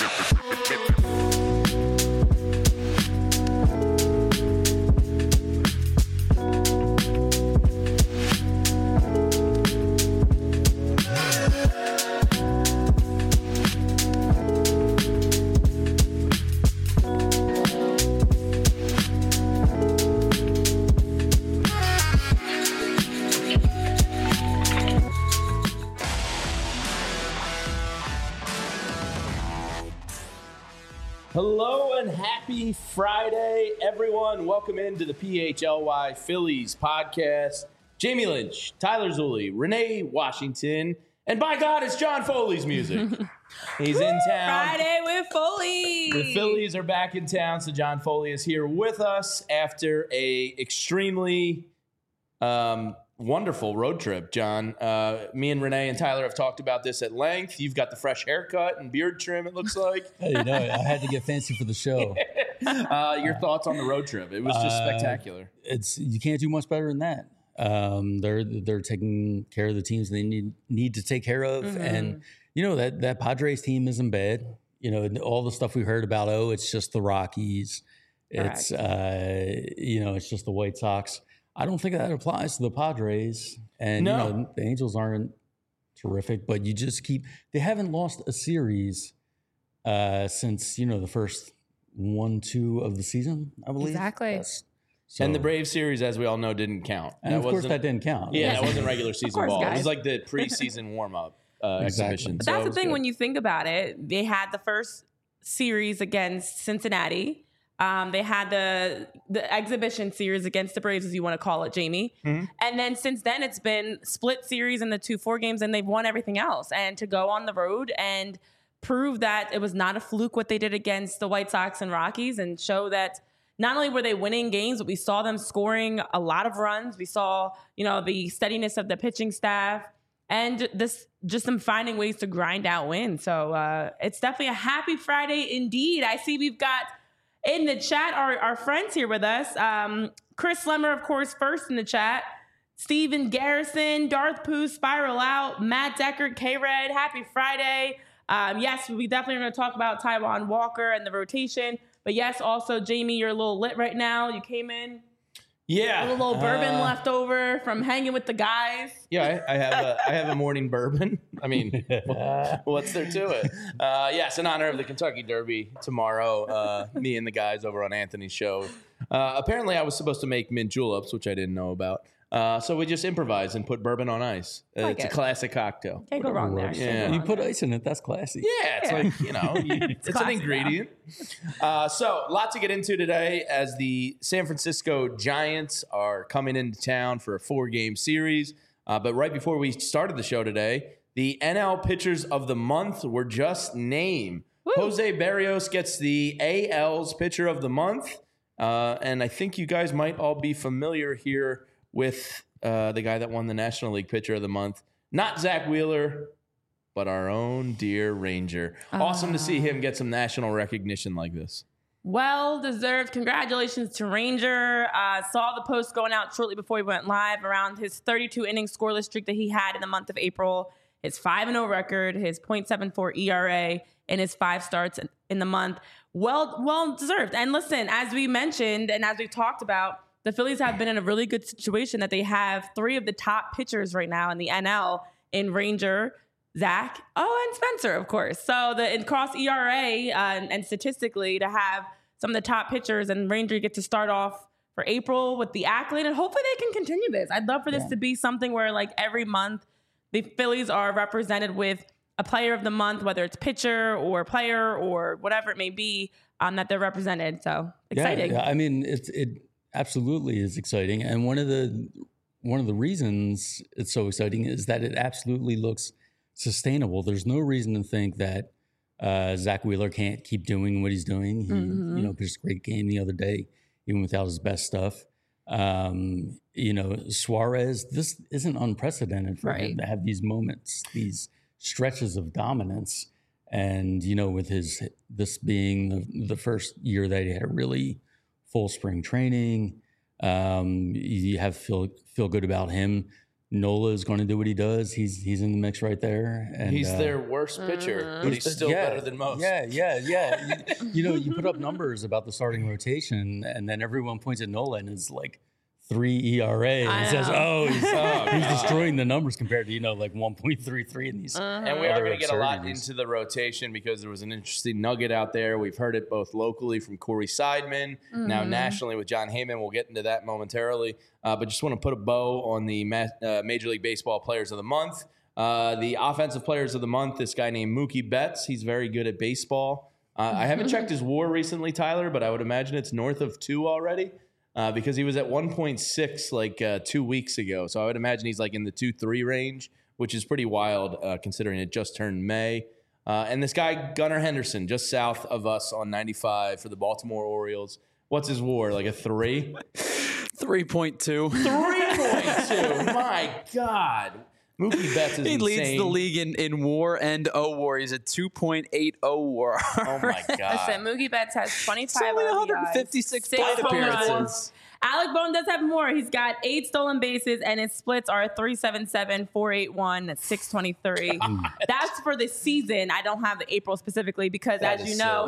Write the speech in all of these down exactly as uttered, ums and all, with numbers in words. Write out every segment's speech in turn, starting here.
Hello and happy Friday, everyone. Welcome into the P H L Y Phillies podcast. Jamie Lynch, Tyler Zulli, Renee Washington, and by God, it's John Foley's music. He's in town. Friday with Foley. The Phillies are back in town, so John Foley is here with us after a extremely um, wonderful road trip, John. Uh, me and Renee and Tyler have talked about this at length. You've got the fresh haircut and beard trim, it looks like. Hey, you know, I had to get fancy for the show. uh, your thoughts on the road trip? It was just Uh, spectacular. It's you can't do much better than that. Um, they're they're taking care of the teams they need need to take care of, Mm-hmm. and you know that that Padres team isn't bad. You know, all the stuff we heard about. Oh, it's just the Rockies. It's uh, you know, it's just the White Sox. I don't think that applies to the Padres. And No. you know, the Angels aren't terrific, but you just keep. They haven't lost a series uh, since you know the first one, two of the season. I believe Exactly. That's- So, And the Braves series, as we all know, didn't count. and That of course wasn't- that didn't count. Yeah, Yes. that wasn't regular season course, ball. It guys. was like the preseason warm-up uh, Exactly. exhibition. But So that's it the was thing good. when you think about it. They had the first series against Cincinnati. Um, they had the the exhibition series against the Braves, as you want to call it, Jamie. Mhm. And then since then, it's been split series in the two four games, and they've won everything else. And to go on the road and prove that it was not a fluke what they did against the White Sox and Rockies, and show that not only were they winning games, but we saw them scoring a lot of runs. We saw, you know, the steadiness of the pitching staff and this just them finding ways to grind out wins. So uh, it's definitely a happy Friday indeed. I see we've got in the chat our, our friends here with us. Um, Chris Lemmer, of course, first in the chat. Steven Garrison, Darth Pooh, Spiral Out, Matt Deckard, K-Red, happy Friday. Um, yes, we definitely are going to talk about Taijuan Walker and the rotation. But yes, also, Jamie, you're a little lit right now. You came in, Yeah. a little bourbon uh, left over from hanging with the guys. Yeah, I, I have a, I have a morning bourbon. I mean, what's there to it? Uh, yes, in honor of the Kentucky Derby tomorrow, uh, me and the guys over on Anthony's show. Uh, apparently, I was supposed to make mint juleps, which I didn't know about. Uh, so we just improvised and put bourbon on ice. Uh, Like it's it. a classic cocktail. Can't go wrong there. Gross. Can't go Yeah. wrong You put there. ice in it. That's classy. Yeah, it's Yeah. like, you know, you, it's, an classic, ingredient. Uh, so, a lot to get into today as the San Francisco Giants are coming into town for a four-game series. Uh, but right before we started the show today, the N L Pitchers of the Month were just named. Woo. Jose Barrios gets the A L's Pitcher of the Month. Uh, and I think you guys might all be familiar here with uh, the guy that won the National League Pitcher of the Month. Not Zach Wheeler, but our own dear Ranger. Awesome to see him get some national recognition like this. Well deserved. Congratulations to Ranger. Uh, saw the post going out shortly before he went live around his thirty-two inning scoreless streak that he had in the month of April, his five and oh record, his point seven four E R A, and his five starts in, in the month. Well, well deserved. And listen, as we mentioned and as we talked about, the Phillies have been in a really good situation that they have three of the top pitchers right now in the N L in Ranger, Zach, oh, and Spencer, of course. So the in cross E R A uh, and, and statistically to have some of the top pitchers and Ranger get to start off for April with the accolade, and hopefully they can continue this. I'd love for this Yeah. to be something where like every month the Phillies are represented with a player of the month, whether it's pitcher or player or whatever it may be, um, that they're represented. So exciting. Yeah, yeah. I mean, it's it absolutely is exciting, and one of the one of the reasons it's so exciting is that it absolutely looks sustainable. There's no reason to think that uh, Zach Wheeler can't keep doing what he's doing. He, Mhm. you know, pitched a great game the other day, even without his best stuff. Um, you know, Suarez, this isn't unprecedented for Right. him to have these moments, these stretches of dominance. And, you know, with his, this being the, the first year that he had a really full spring training, um, you have feel, feel good about him. Nola is going to do what he does. He's he's in the mix right there. And, He's uh, their worst pitcher, but he's He's- still yeah, better than most. Yeah, yeah, yeah. you, you know, you put up numbers about the starting rotation, and then everyone points at Nola and it's like three E R A I and says, know. "Oh, he's, Oh, he's God. destroying the numbers compared to you know like one point three three in these." And we are other going to get a lot absurdities. into the rotation because there was an interesting nugget out there. We've heard it both locally from Corey Seidman, now nationally with John Heyman. We'll get into that momentarily. Uh, but just want to put a bow on the ma- uh, Major League Baseball Players of the Month. Uh, the Offensive Players of the Month, this guy named Mookie Betts. He's very good at baseball. Uh, I haven't checked his WAR recently, Tyler, but I would imagine it's north of two already. Uh, because he was at one point six like uh, two weeks ago. So I would imagine he's like in the two three range, which is pretty wild uh, considering it just turned May. Uh, and this guy, Gunnar Henderson, just south of us on ninety-five for the Baltimore Orioles. What's his WAR? Like a three? three point two. three point two. My God. Mookie Betts is He leads insane. the league in, in WAR and O WAR. He's at two point eight oh WAR. Oh, my God. Listen, Mookie Betts has twenty-five only R B Is, one hundred fifty-six six plate home runs. appearances. Alec Bohm does have more. He's got eight stolen bases, and his splits are three seventy-seven, four eighty-one, six twenty-three. That's for the season. I don't have the April specifically because, That as is you know,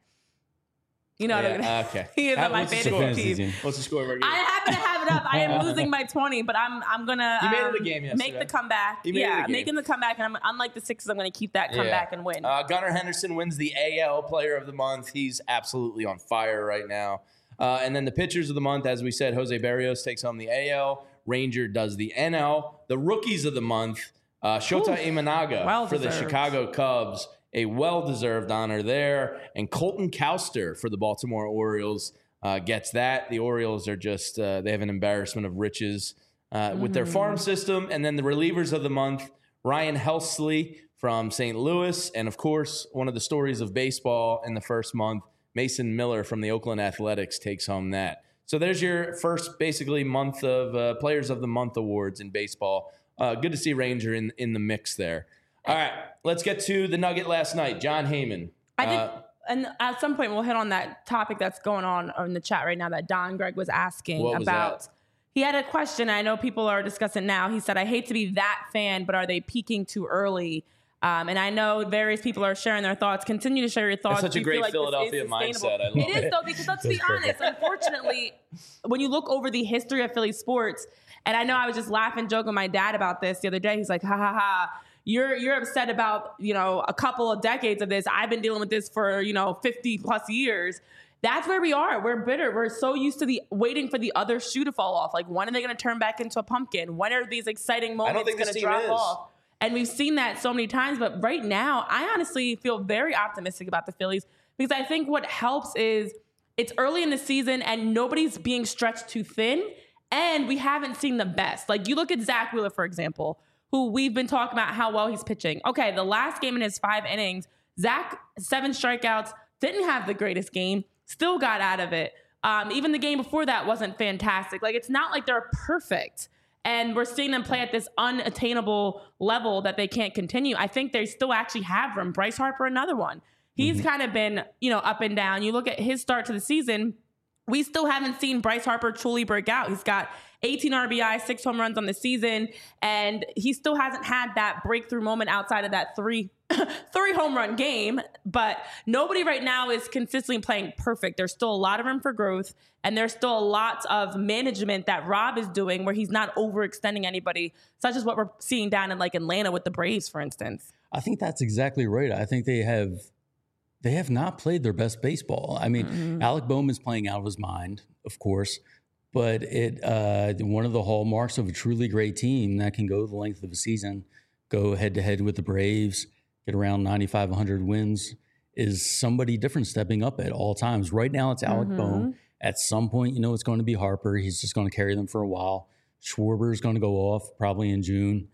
you know what I'm Yeah, gonna okay. He is How- on my what's the fantasy score? Fantasy team. team. What's the score? We're I happen to have it up. I am losing by twenty, but I'm I'm gonna You made it um, a game make yesterday. the comeback. You made it a yeah, game. making the comeback, and I'm, unlike the Sixers, I'm gonna keep that comeback and win. Uh, Gunnar Henderson wins the A L Player of the Month. He's absolutely on fire right now. Uh, and then the pitchers of the month, as we said, Jose Barrios takes home the A L. Ranger does the N L. The rookies of the month, uh, Shota Imanaga Well for the deserved. Chicago Cubs, a well-deserved honor there. And Colton Cowster for the Baltimore Orioles uh, gets that. The Orioles are just, uh, they have an embarrassment of riches uh, with their farm system. And then the relievers of the month, Ryan Helsley from Saint Louis. And of course, one of the stories of baseball in the first month, Mason Miller from the Oakland Athletics takes home that. So there's your first basically month of uh, Players of the Month awards in baseball. Uh, good to see Ranger in, in the mix there. All right, let's get to the nugget last night. John Heyman. I think, Uh, and at some point we'll hit on that topic that's going on in the chat right now that Don Greg was asking What was about. that? He had a question. I know people are discussing now. He said, "I hate to be that fan, but are they peaking too early?" Um, and I know various people are sharing their thoughts. Continue to share your thoughts. such a Do you great feel like this Philadelphia is mindset. sustainable? I love It it. is though, because let's be honest. Unfortunately, when you look over the history of Philly sports, and I know I was just laughing, joking with my dad about this the other day. He's like, "Ha ha ha." You're you're upset about, you know, a couple of decades of this. I've been dealing with this for, you know, fifty plus years. That's where we are. We're bitter. We're so used to the waiting for the other shoe to fall off. Like, when are they going to turn back into a pumpkin? When are these exciting moments think going this to team drop is. off? And we've seen that so many times. But right now, I honestly feel very optimistic about the Phillies because I think what helps is it's early in the season and nobody's being stretched too thin. And we haven't seen the best. Like, you look at Zach Wheeler, for example, who we've been talking about how well he's pitching. Okay, the last game in his five innings, Zach, seven strikeouts, didn't have the greatest game, still got out of it. Um, even the game before that wasn't fantastic. Like, it's not like they're perfect. And we're seeing them play at this unattainable level that they can't continue. I think they still actually have room. Bryce Harper, another one. He's kind of been, you know, up and down. You look at his start to the season, we still haven't seen Bryce Harper truly break out. He's got eighteen R B I, six home runs on the season, and he still hasn't had that breakthrough moment outside of that three three home run game. But nobody right now is consistently playing perfect. There's still a lot of room for growth, and there's still a lot of management that Rob is doing where he's not overextending anybody, such as what we're seeing down in like Atlanta with the Braves, for instance. I think that's exactly right. I think they have they have not played their best baseball. I mean, Mm-hmm. Alec Bohm is playing out of his mind, of course, but it uh, one of the hallmarks of a truly great team that can go the length of a season, go head to head with the Braves, get around ninety-five, one hundred wins, is somebody different stepping up at all times. Right now, it's Alec Mm-hmm. Bohm. At some point, you know, it's going to be Harper. He's just going to carry them for a while. Schwarber is going to go off probably in June.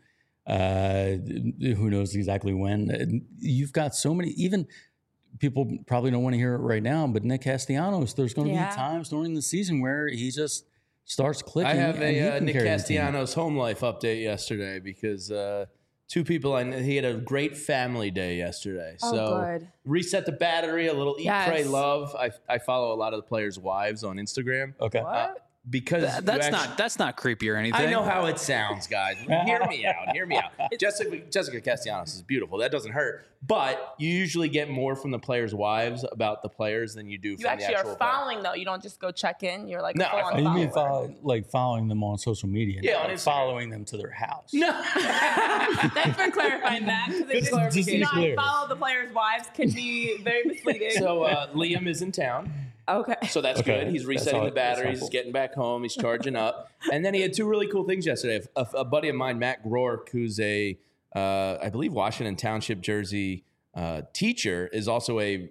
Uh, who knows exactly when? You've got so many, even people probably don't want to hear it right now, but Nick Castellanos, there's going to Yeah. be times during the season where he just starts clicking. I have and he a uh, can Nick carry the team. Castellanos home life update yesterday because uh, two people I kn- he had a great family day yesterday. Oh, so good. reset the battery, a little eat, Yes. pray, love. I I follow a lot of the players' wives on Instagram. Okay. What? Uh, because Th- that's you not actually, that's not creepy or anything. I know how it sounds, guys. Hear me out. Hear me out. Jessica Jessica Castellanos is beautiful. That doesn't hurt. But you usually get more from the players' wives about the players than you do You from actually the actual are following though. You don't just go check in. You're like No, a full I on follow. You mean follower. follow, like following them on social media? Yeah, not on like Instagram. following them to their house. No. Thanks for clarifying that. Good Because clarification. not Clear. follow the players' wives can be very misleading. So uh, Liam is in town. okay. So that's Okay. good. He's That's resetting all- the that's batteries. He's helpful. getting back home. He's charging up. And then he had two really cool things yesterday. A, a buddy of mine, Matt Groark, who's a, uh, I believe, Washington Township, Jersey uh, teacher, is also a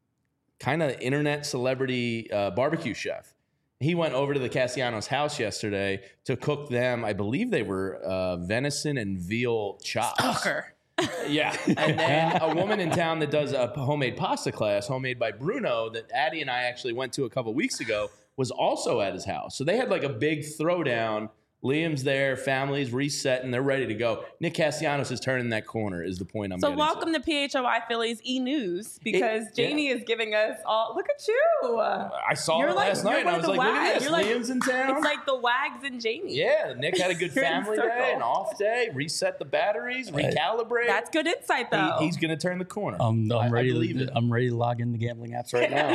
kind of internet celebrity uh, barbecue chef. He went over to the Castellanos house yesterday to cook them. I believe they were uh, venison and veal chops. Stalker. Yeah. And then a woman in town that does a homemade pasta class, homemade by Bruno, that Addie and I actually went to a couple weeks ago, was also at his house. So they had like a big throwdown. Liam's there, family's resetting, they're ready to go. Nick Castellanos is turning that corner, is the point I'm So getting welcome to. to P H O I Phillies E News because It- yeah. Janie is giving us all. Look at you. I saw You're it like- last you're night and one I of was the like, look at wags. this, You're like- Liam's in town. It's like the Wags and Janie. Yeah, Nick had a good You're in family circle. day, an off day, reset the batteries, recalibrate. That's good insight though. He- he's going to turn the corner. Um, I- I I'm ready. believe to, it. I'm ready to log in the gambling apps right now.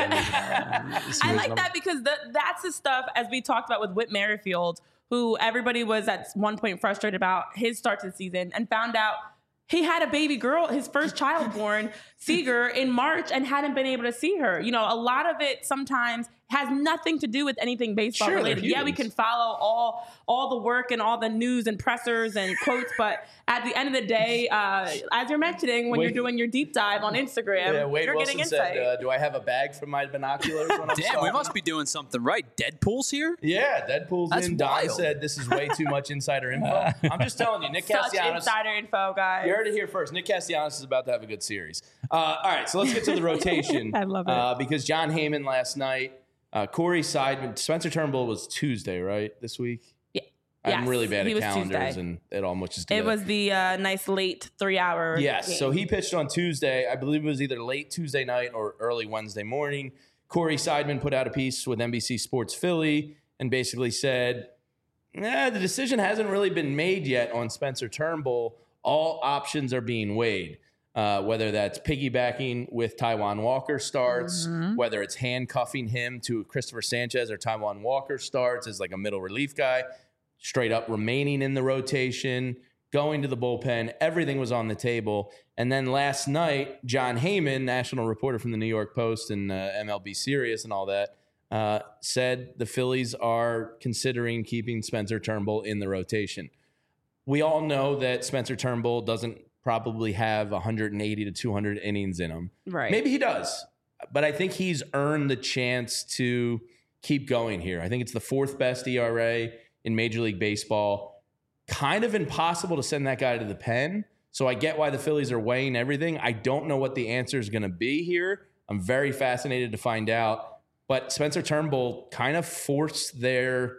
and, see I what like number- that because the, that's the stuff, as we talked about with Whit Merrifield, who everybody was at one point frustrated about his start to the season and found out he had a baby girl, his first child born, Seager, in March and hadn't been able to see her. You know, a lot of it sometimes has nothing to do with anything baseball Sure, they're related. Yeah, we humans. can follow all all the work and all the news and pressers and quotes, but at the end of the day, uh, as you're mentioning, when Wait- you're doing your deep dive on Instagram, Yeah, Wade you're Wilson getting insight. said, uh, do I have a bag for my binoculars when I'm Damn, we stalking? must be doing something right. Deadpool's here. Yeah, Deadpool's That's in. Don wild. said this is way too much insider info. I'm just telling you, Nick Such Castellanos. insider info, guys. You heard it here first. Nick Castellanos is about to have a good series. Uh, all right, so let's get to the rotation. I love it. Uh, because John Heyman last night, uh, Corey Seidman, Spencer Turnbull was Tuesday, right? This week? Yeah. I'm Yes, really bad he at was calendars Tuesday. and it all mushes It together. was the uh, nice late three hour. Yes. game. So he pitched on Tuesday. I believe it was either late Tuesday night or early Wednesday morning. Corey Seidman put out a piece with N B C Sports Philly and basically said, nah, the decision hasn't really been made yet on Spencer Turnbull. All options are being weighed. Uh, whether that's piggybacking with Taijuan Walker starts, whether it's handcuffing him to Christopher Sanchez or Taijuan Walker starts as like a middle relief guy, straight up remaining in the rotation, going to the bullpen, everything was on the table. And then last night, John Heyman, national reporter from the New York Post and uh, M L B Sirius and all that, uh, said the Phillies are considering keeping Spencer Turnbull in the rotation. We all know that Spencer Turnbull doesn't probably have one hundred eighty to two hundred innings in him. Right. Maybe he does, but I think he's earned the chance to keep going here. I think it's the fourth best E R A in Major League Baseball. Kind of impossible to send that guy to the pen. So I get why the Phillies are weighing everything. I don't know what the answer is going to be here. I'm very fascinated to find out. But Spencer Turnbull kind of forced their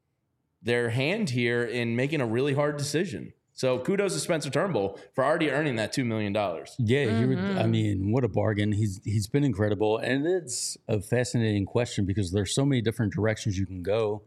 their hand here in making a really hard decision. So kudos to Spencer Turnbull for already earning that two million dollars. Yeah, he would, I Mm-hmm. mean, what a bargain. He's he's been incredible, and it's a fascinating question because there's so many different directions you can go.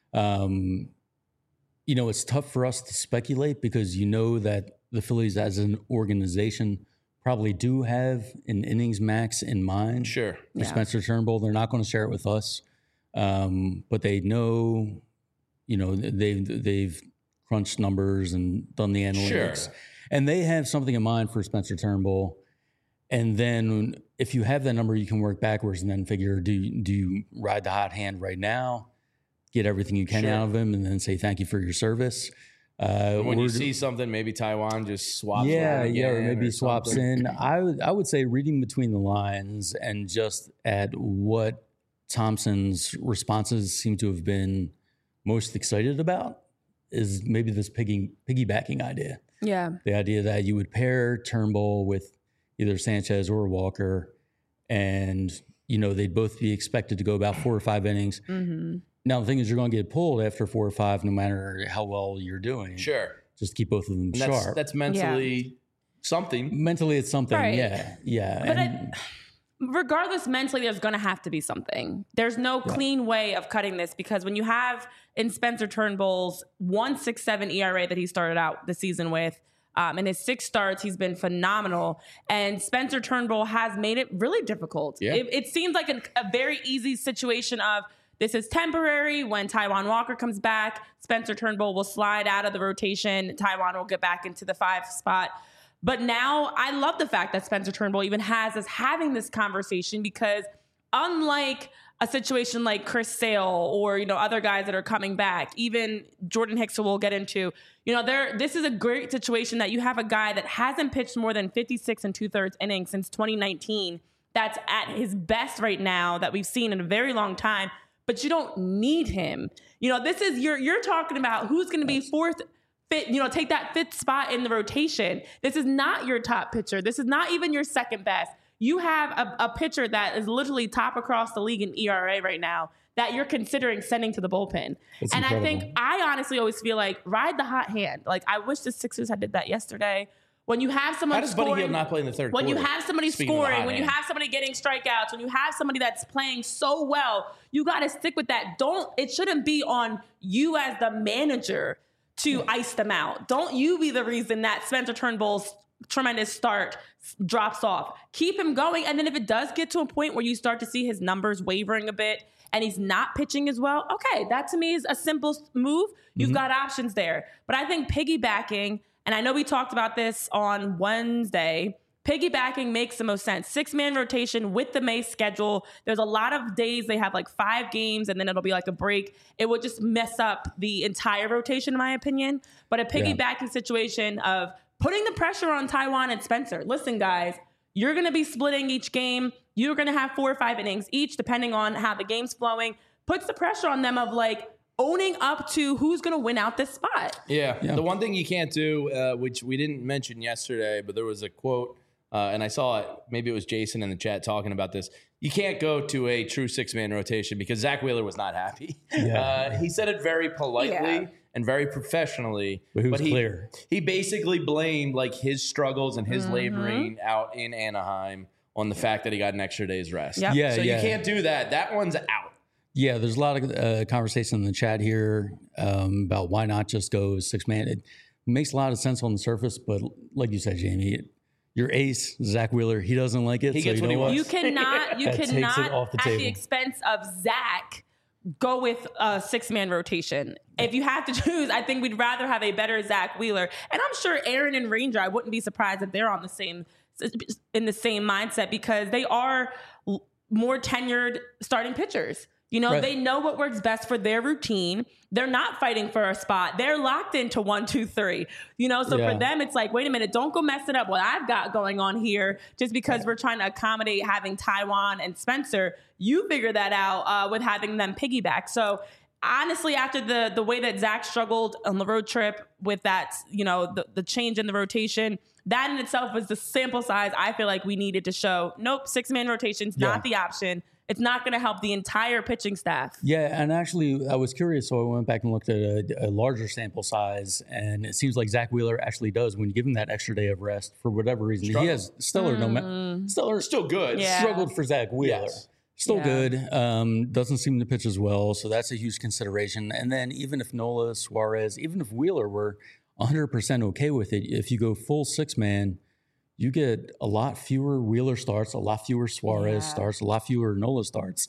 Um, you know, it's tough for us to speculate because you know that the Phillies as an organization probably do have an innings max in mind Sure. for Yeah. Spencer Turnbull. They're not going to share it with us, um, but they know, you know, they've they've crunched numbers and done the analytics, Sure. and they have something in mind for Spencer Turnbull. And then if you have that number, you can work backwards and then figure: do you, do you ride the hot hand right now, get everything you can Sure. out of him, and then say thank you for your service? Uh, When you or- see something, maybe Taiwan just swaps. yeah, one yeah, or again maybe swaps something. in. I would, I would say reading between the lines and just at what Thompson's responses seem to have been most excited about is maybe this piggy, piggybacking idea. Yeah. The idea that you would pair Turnbull with either Sanchez or Walker, and you know they'd both be expected to go about four or five innings. Mm-hmm. Now the thing is, you're going to get pulled after four or five, no matter how well you're doing. Sure. Just keep both of them And that's, sharp. that's mentally something. Mentally, it's something. Right. Yeah, yeah. But and- regardless, mentally, there's going to have to be something. There's no yeah. clean way of cutting this, because when you have in Spencer Turnbull's one point six seven E R A that he started out the season with, um, in his six starts, he's been phenomenal. And Spencer Turnbull has made it really difficult. Yeah. It, it seems like a, a very easy situation of this is temporary. When Taijuan Walker comes back, Spencer Turnbull will slide out of the rotation. Taijuan will get back into the five spot. But now I love the fact that Spencer Turnbull even has us having this conversation, because unlike a situation like Chris Sale or, you know, other guys that are coming back, even Jordan Hicks, who we'll get into, you know, there, this is a great situation that you have a guy that hasn't pitched more than fifty-six and two thirds innings since twenty nineteen. That's at his best right now that we've seen in a very long time, but you don't need him. You know, this is, you're, you're talking about who's going to be fourth, fit, you know, take that fifth spot in the rotation. This is not your top pitcher. This is not even your second best. You have a, a pitcher that is literally top across the league in E R A right now that you're considering sending to the bullpen. That's and incredible. I think, I honestly always feel like ride the hot hand. Like, I wish the Sixers had did that yesterday. When you have someone How does scoring, Buddy Hield not play in the third when quarter? you have somebody Speaking of the scoring, hot when you hand. have somebody getting strikeouts, when you have somebody that's playing so well, you got to stick with that. Don't, it shouldn't be on you as the manager to ice them out. Don't you be the reason that Spencer Turnbull's tremendous start drops off. Keep him going. And then if it does get to a point where you start to see his numbers wavering a bit and he's not pitching as well, okay, that to me is a simple move. You've mm-hmm. got options there. But I think piggybacking, and I know we talked about this on Wednesday, piggybacking makes the most sense. Six-man rotation with the May schedule. There's a lot of days they have like five games and then it'll be like a break. It would just mess up the entire rotation, in my opinion. But a piggybacking yeah. situation of putting the pressure on Taijuan and Spencer. Listen, guys, you're going to be splitting each game. You're going to have four or five innings each, depending on how the game's flowing. Puts the pressure on them of like owning up to who's going to win out this spot. Yeah. Yeah. The one thing you can't do, uh, which we didn't mention yesterday, but there was a quote, uh, and I saw it, maybe it was Jason in the chat talking about this. You can't go to a true six-man rotation because Zach Wheeler was not happy. Yeah. Uh, he said it very politely. Yeah. And very professionally, but, he was he, clear. he basically blamed like his struggles and his Mm-hmm. laboring out in Anaheim on the fact that he got an extra day's rest. Yep. Yeah, so yeah. you can't do that. That one's out. Yeah, there's a lot of uh, conversation in the chat here um, about why not just go six man. It makes a lot of sense on the surface, but like you said, Jamie, it, your ace, Zach Wheeler, he doesn't like it. He so gets you what know he what? You cannot, you That takes cannot it off the at table. the expense of Zach go with a six-man rotation. If you have to choose, I think we'd rather have a better Zach Wheeler. And I'm sure Aaron and Ranger, I wouldn't be surprised if they're on the same in the same mindset, because they are more tenured starting pitchers. You know, Right. they know what works best for their routine. They're not fighting for a spot. They're locked into one, two, three. You know, so Yeah. for them, it's like, wait a minute, don't go messing up what I've got going on here just because we're trying to accommodate having Taijuan and Spencer. You figure that out uh, with having them piggyback. So honestly, after the the way that Zach struggled on the road trip with that, you know, the, the change in the rotation, that in itself was the sample size I feel like we needed to show. Nope, six-man rotation's Yeah. not the option. It's not going to help the entire pitching staff. Yeah, and actually, I was curious, so I went back and looked at a, a larger sample size, and it seems like Zach Wheeler actually does, when you give him that extra day of rest for whatever reason. Struggle. He has stellar, no ma- stellar, Still good. Yeah. struggled for Zach Wheeler. Yes. Still Yeah. good. Um, doesn't seem to pitch as well, so that's a huge consideration. And then even if Nola, Suarez, even if Wheeler were one hundred percent okay with it, if you go full six man, you get a lot fewer Wheeler starts, a lot fewer Suarez Yeah. starts, a lot fewer Nola starts.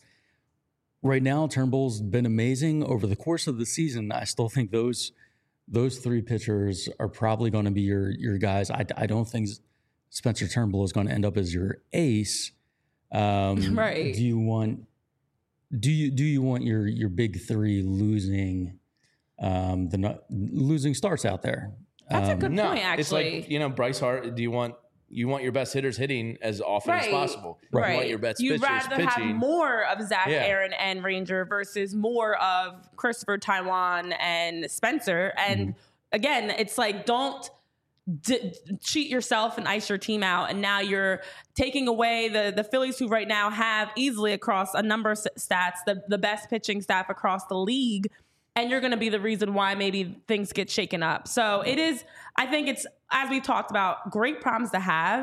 Right now, Turnbull's been amazing over the course of the season. I still think those those three pitchers are probably going to be your your guys. I, I don't think Spencer Turnbull is going to end up as your ace. Um, Right. Do you want do you do you want your your big three losing um, the no- losing starts out there? That's a Um, good No, point, it's actually. like, you know, Bryce Hart, do you want you want your best hitters hitting as often as Right. possible? Right. You want your best You'd pitchers rather pitching. have more of Zach, Yeah. Aaron, and Ranger versus more of Christopher, Taijuan, and Spencer. And Mm-hmm. again, it's like, don't d- cheat yourself and ice your team out. And now you're taking away the, the Phillies, who right now have easily across a number of s- stats, the, the best pitching staff across the league. And you're going to be the reason why maybe things get shaken up. So it is, I think it's, as we talked about, great problems to have.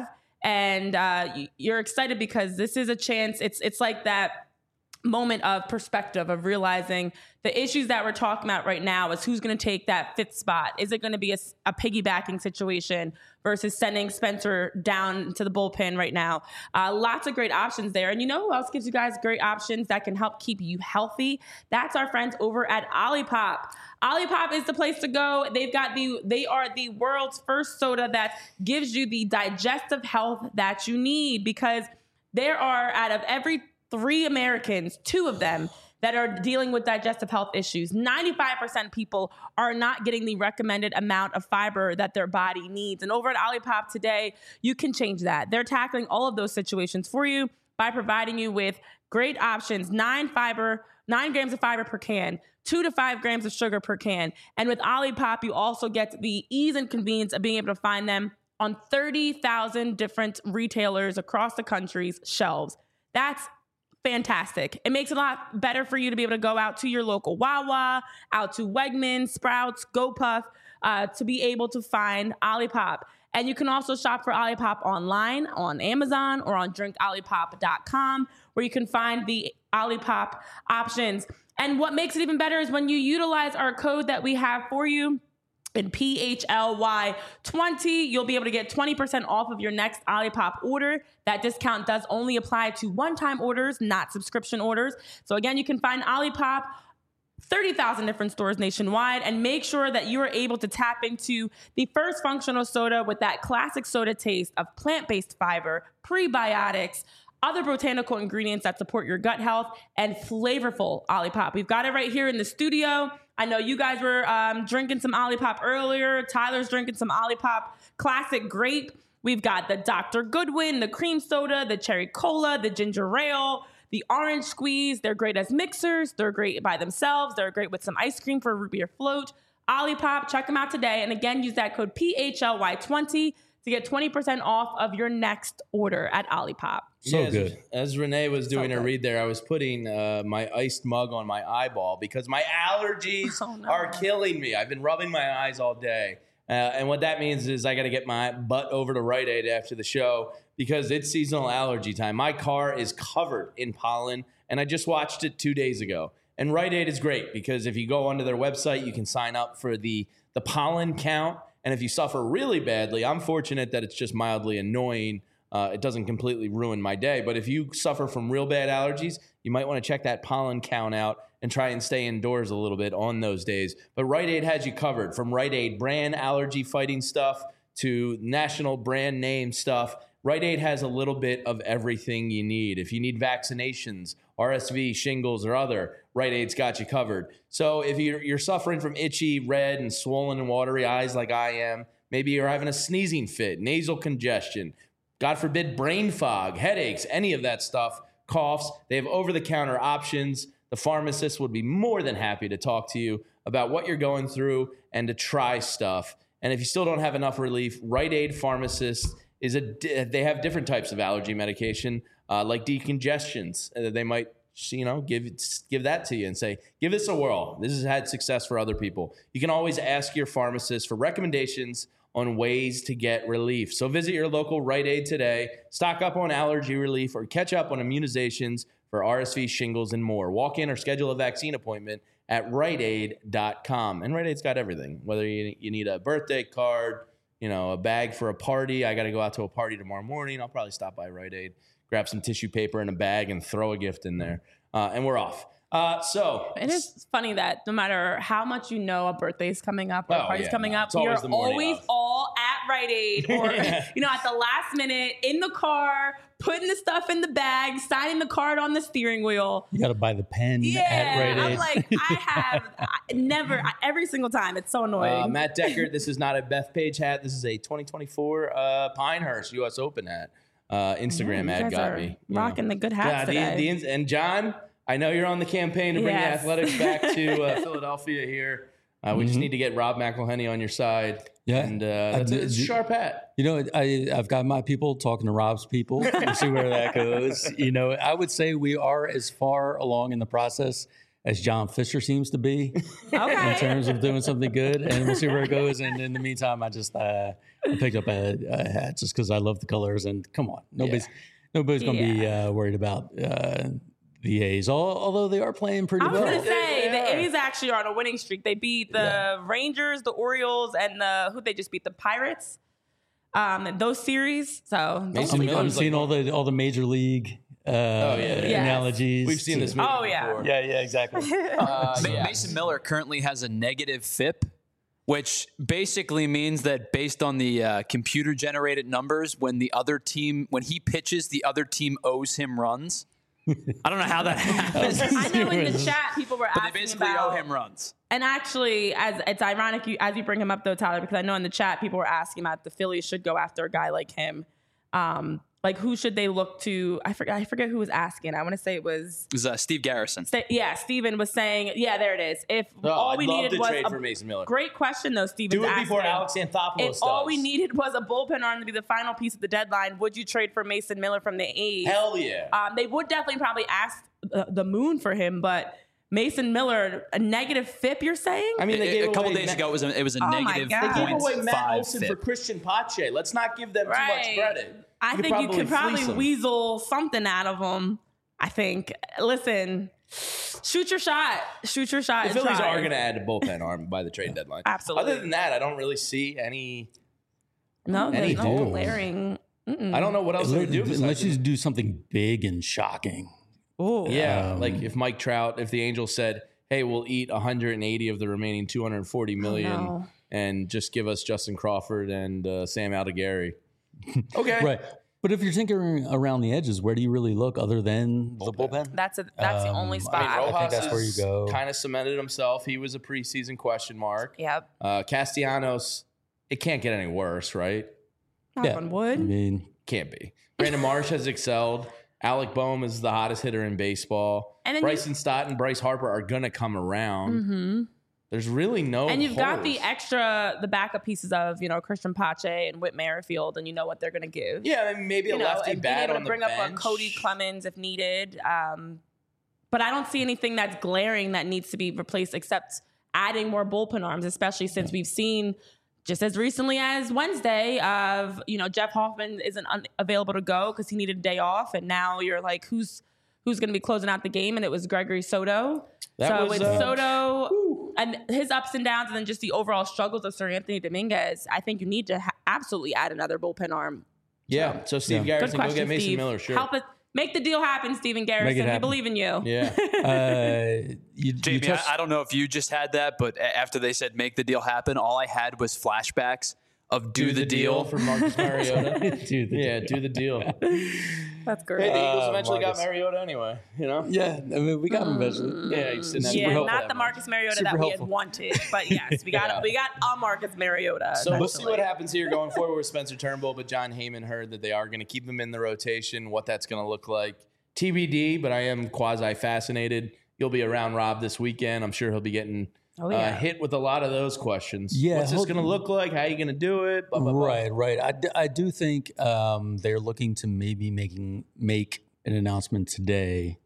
and uh, y- you're excited because this is a chance. It's it's like that moment of perspective of realizing the issues that we're talking about right now is who's going to take that fifth spot. Is it going to be a, a piggybacking situation versus sending Spencer down to the bullpen right now? Uh, lots of great options there. And you know who else gives you guys great options that can help keep you healthy? That's our friends over at Olipop. Olipop is the place to go. They've got the, they are the world's first soda that gives you the digestive health that you need, because there are, out of every three Americans, two of them that are dealing with digestive health issues. ninety-five percent of people are not getting the recommended amount of fiber that their body needs. And over at Olipop today, you can change that. They're tackling all of those situations for you by providing you with great options, nine fiber, nine grams of fiber per can, two to five grams of sugar per can. And with Olipop, you also get the ease and convenience of being able to find them on thirty thousand different retailers across the country's shelves. That's fantastic. It makes it a lot better for you to be able to go out to your local Wawa, out to Wegmans, Sprouts, GoPuff, uh, to be able to find Olipop. And you can also shop for Olipop online on Amazon or on drink olipop dot com, where you can find the Olipop options. And what makes it even better is when you utilize our code that we have for you, in P H L Y twenty, you'll be able to get twenty percent off of your next Olipop order. That discount does only apply to one-time orders, not subscription orders. So again, you can find Olipop thirty thousand different stores nationwide, and make sure that you are able to tap into the first functional soda with that classic soda taste of plant-based fiber, prebiotics, other botanical ingredients that support your gut health, and flavorful Olipop. We've got it right here in the studio. I know you guys were um, drinking some Olipop earlier. Tyler's drinking some Olipop Classic Grape. We've got the Doctor Goodwin, the cream soda, the cherry cola, the ginger ale, the orange squeeze. They're great as mixers. They're great by themselves. They're great with some ice cream for a root beer float. Olipop, check them out today. And again, use that code P H L Y twenty to get twenty percent off of your next order at Olipop. So yeah, good. As, as Renee was doing So her good. read there, I was putting uh, my iced mug on my eyeball because my allergies Oh, no. are killing me. I've been rubbing my eyes all day. Uh, and what that means is I got to get my butt over to Rite Aid after the show because it's seasonal allergy time. My car is covered in pollen, and I just watched it two days ago. And Rite Aid is great because if you go onto their website, you can sign up for the, the pollen count. And if you suffer really badly, I'm fortunate that it's just mildly annoying. Uh, it doesn't completely ruin my day. But if you suffer from real bad allergies, you might want to check that pollen count out and try and stay indoors a little bit on those days. But Rite Aid has you covered, from Rite Aid brand allergy fighting stuff to national brand name stuff. Rite Aid has a little bit of everything you need. If you need vaccinations, R S V, shingles, or other, Rite Aid's got you covered. So if you're, you're suffering from itchy, red, and swollen and watery eyes like I am, maybe you're having a sneezing fit, nasal congestion, God forbid, brain fog, headaches, any of that stuff, coughs, they have over-the-counter options. The pharmacist would be more than happy to talk to you about what you're going through and to try stuff. And if you still don't have enough relief, Rite Aid Pharmacist is a, they have different types of allergy medication, uh, like decongestions. Uh, they might, you know, give give that to you and say, give this a whirl. This has had success for other people. You can always ask your pharmacist for recommendations on ways to get relief. So visit your local Rite Aid today, stock up on allergy relief, or catch up on immunizations for R S V, shingles, and more. Walk in or schedule a vaccine appointment at rite aid dot com. And Rite Aid's got everything, whether you, you need a birthday card, you know, a bag for a party. I got to go out to a party tomorrow morning. I'll probably stop by Rite Aid, grab some tissue paper in a bag, and throw a gift in there. Uh, and we're off. Uh, so It is funny that no matter how much you know a birthday's coming up or a Oh, party's yeah, coming no, up, it's we always are the morning always of. all at Rite Aid or, you know, at the last minute in the car, putting the stuff in the bag, signing the card on the steering wheel. You got to buy the pen at Yeah, Rite I'm Aid. like, I have I never, I, every single time. It's so annoying. Uh, Matt Deckert, this is not a Bethpage hat. This is a twenty twenty-four uh, Pinehurst U S Open hat. Uh, Instagram You ad guys got are me. you rocking know. the good hats Yeah, the- today. the ins- and John, I know you're on the campaign to bring Yes. the athletics back to uh, Philadelphia here. Uh, we just Mhm. need to get Rob McElhenney on your side. Yeah. And uh, that's I a, it's a did- sharp hat. You know, I, I've got my people talking to Rob's people. We'll see where that goes. You know, I would say we are as far along in the process as John Fisher seems to be in Okay. terms of doing something good, and we'll see where it goes. And in the meantime, I just uh, I picked up a, a hat just because I love the colors. And come on, nobody's nobody's going to be uh, worried about uh, the A's, all, although they are playing pretty I was well. gonna say They are. the A's actually are on a winning streak. They beat the Yeah. Rangers, the Orioles, and the who they just beat the Pirates. Um, in those series. So those Mason I'm, are I'm Miller's seeing like- all the all the major league uh, yeah, yeah. analogies. We've seen to- this movie Oh, yeah. before. Yeah, yeah, exactly. Uh, Ma- yeah. Mason Miller currently has a negative F I P, which basically means that based on the uh, computer generated numbers, when the other team, when he pitches, the other team owes him runs. I don't know how that happens, I know in the chat people were but they asking basically about, owe him runs. and actually, as it's ironic you, as you bring him up though, Tyler, because I know in the chat people were asking about the Phillies should go after a guy like him. Um, like who should they look to? I forget. I forget who was asking. I want to say it was. It was uh, Steve Garrison. Sta- Yeah, Steven was saying. Yeah, there it is. If Oh, all I'd we love needed to was trade a for Mason Miller. great question though, Steven. Do it before Alex Anthopoulos If does. all we needed was a bullpen arm to be the final piece of the deadline, would you trade for Mason Miller from the A's? Hell yeah. Um, they would definitely probably ask the, the moon for him, but Mason Miller, a negative F I P, you're saying? I mean, they A- gave a couple away days Matt- ago, it was a, it was a Oh my negative God. They gave point away Matt five Olson F I for P. Christian Pache. Let's not give them too Right. much credit. I think you could fleece probably them. weasel something out of him. I think. Listen, shoot your shot. Shoot your shot. The and Phillies try. are going to add a bullpen arm by the trade deadline. Absolutely. Other than that, I don't really see any. No, Any there's no dude. glaring. Mm-mm. I don't know what else they would do. Unless besides you just- do something big and shocking. Ooh. Yeah, Um, like if Mike Trout, if the Angels said, "Hey, we'll eat one hundred eighty of the remaining two hundred forty million, no. and just give us Justin Crawford and uh, Sam Aldegheri." Okay, Right. But if you're tinkering around the edges, where do you really look other than the bullpen? That's a, that's the Um, only I spot. I mean, I Rojas think that's where you go. Kind of cemented himself. He was a preseason question mark. Yep. Uh, Castellanos, it can't get any worse, right? Knock Yeah. on I wood. mean, Can't be. Brandon Marsh has excelled. Alec Boehm is the hottest hitter in baseball. And then you- Bryson Stott and Bryce Harper are going to come around. Mm-hmm. There's really no And you've got the holes. extra, the backup pieces of, you know, Christian Pache and Whit Merrifield, and you know what they're going to give. Yeah, I mean, maybe You a know, lefty and being bat able on to the bring up a bench. Cody Clemens if needed. Um, but I don't see anything that's glaring that needs to be replaced except adding more bullpen arms, especially since we've seen just as recently as Wednesday of, you know, Jeff Hoffman isn't un- available to go because he needed a day off. And now you're like, who's who's going to be closing out the game? And it was Gregory Soto. That so was, with uh, Soto and his ups and downs and then just the overall struggles of Sir Anthony Dominguez, I think you need to ha- absolutely add another bullpen arm. Yeah, so Steve Yeah. Good Garrison, go question, get Mason Steve. Miller, sure. Help us make the deal happen, Steven Garrison. We happen. believe in you. Yeah. uh, you, you Jamie, touched- I, I don't know if you just had that, but a- after they said make the deal happen, all I had was flashbacks of do, the, deal. for Marcus Mariota. do the yeah, deal. do the deal. That's Hey, great. the Eagles Uh, eventually got Marcus. Mariota anyway, you know? Yeah, I mean, we got him eventually. Yeah, he's sitting Super yeah, helpful. not the Marcus Mariota Super that we helpful. had wanted, but yes, we got Yeah. we got a Marcus Mariota. So we'll see eventually. what happens here going forward with Spencer Turnbull, but John Heyman heard that they are going to keep him in the rotation. What that's going to look like, T B D, but I am quasi fascinated. You'll be around Rob this weekend. I'm sure he'll be getting Oh, yeah. uh, hit with a lot of those questions. Yeah, What's this hope- going to look like? How are you going to do it? Blah, blah, blah. Right, right. I, d- I do think um, they're looking to maybe making make an announcement today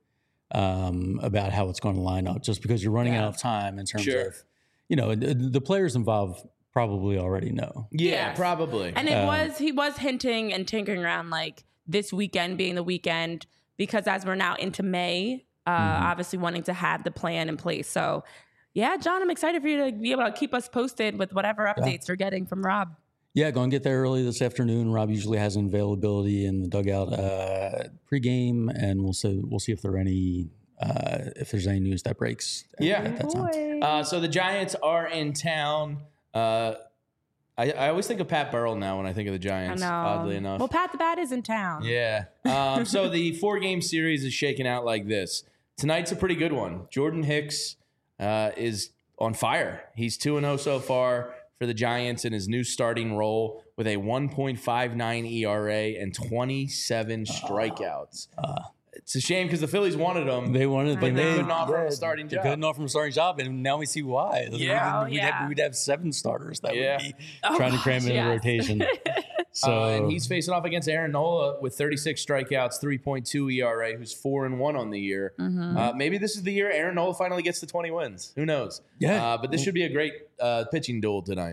um, about how it's going to line up, just because you're running Yeah. out of time in terms Sure. of, you know, the, the players involved probably already know. Yeah, Yes. probably. And it Um, was he was hinting and tinkering around like this weekend being the weekend because as we're now into May, uh, Mm-hmm. obviously wanting to have the plan in place. So, yeah, John, I'm excited for you to be able to keep us posted with whatever updates you're getting from Rob. Yeah, go and get there early this afternoon. Rob usually has an availability in the dugout uh, pregame, and we'll see we'll see if there are any uh, if there's any news that breaks. at- Yeah. at that time. Uh, so the Giants are in town. Uh, I, I always think of Pat Burrell now when I think of the I Giants, know. oddly enough. Well, Pat the Bat is in town. Yeah. Um, so the four game series is shaking out like this. Tonight's a pretty good one. Jordan Hicks uh, is on fire. He's two and oh so far for the Giants in his new starting role with a one point five nine E R A and twenty-seven strikeouts. It's a shame because the Phillies wanted him. They wanted, but I they know. couldn't offer him a yeah, starting they job. couldn't offer him a starting job, and now we see why. Yeah. we'd, Oh, we'd, yeah. Have, we'd have seven starters that Yeah. would be Oh, trying to cram gosh, in yes. a rotation. So uh, and he's facing off against Aaron Nola with thirty-six strikeouts, three point two E R A, who's four and one on the year. Mm-hmm. Uh, maybe this is the year Aaron Nola finally gets to twenty wins. Who knows? Yeah. Uh, but this should be a great uh, pitching duel tonight.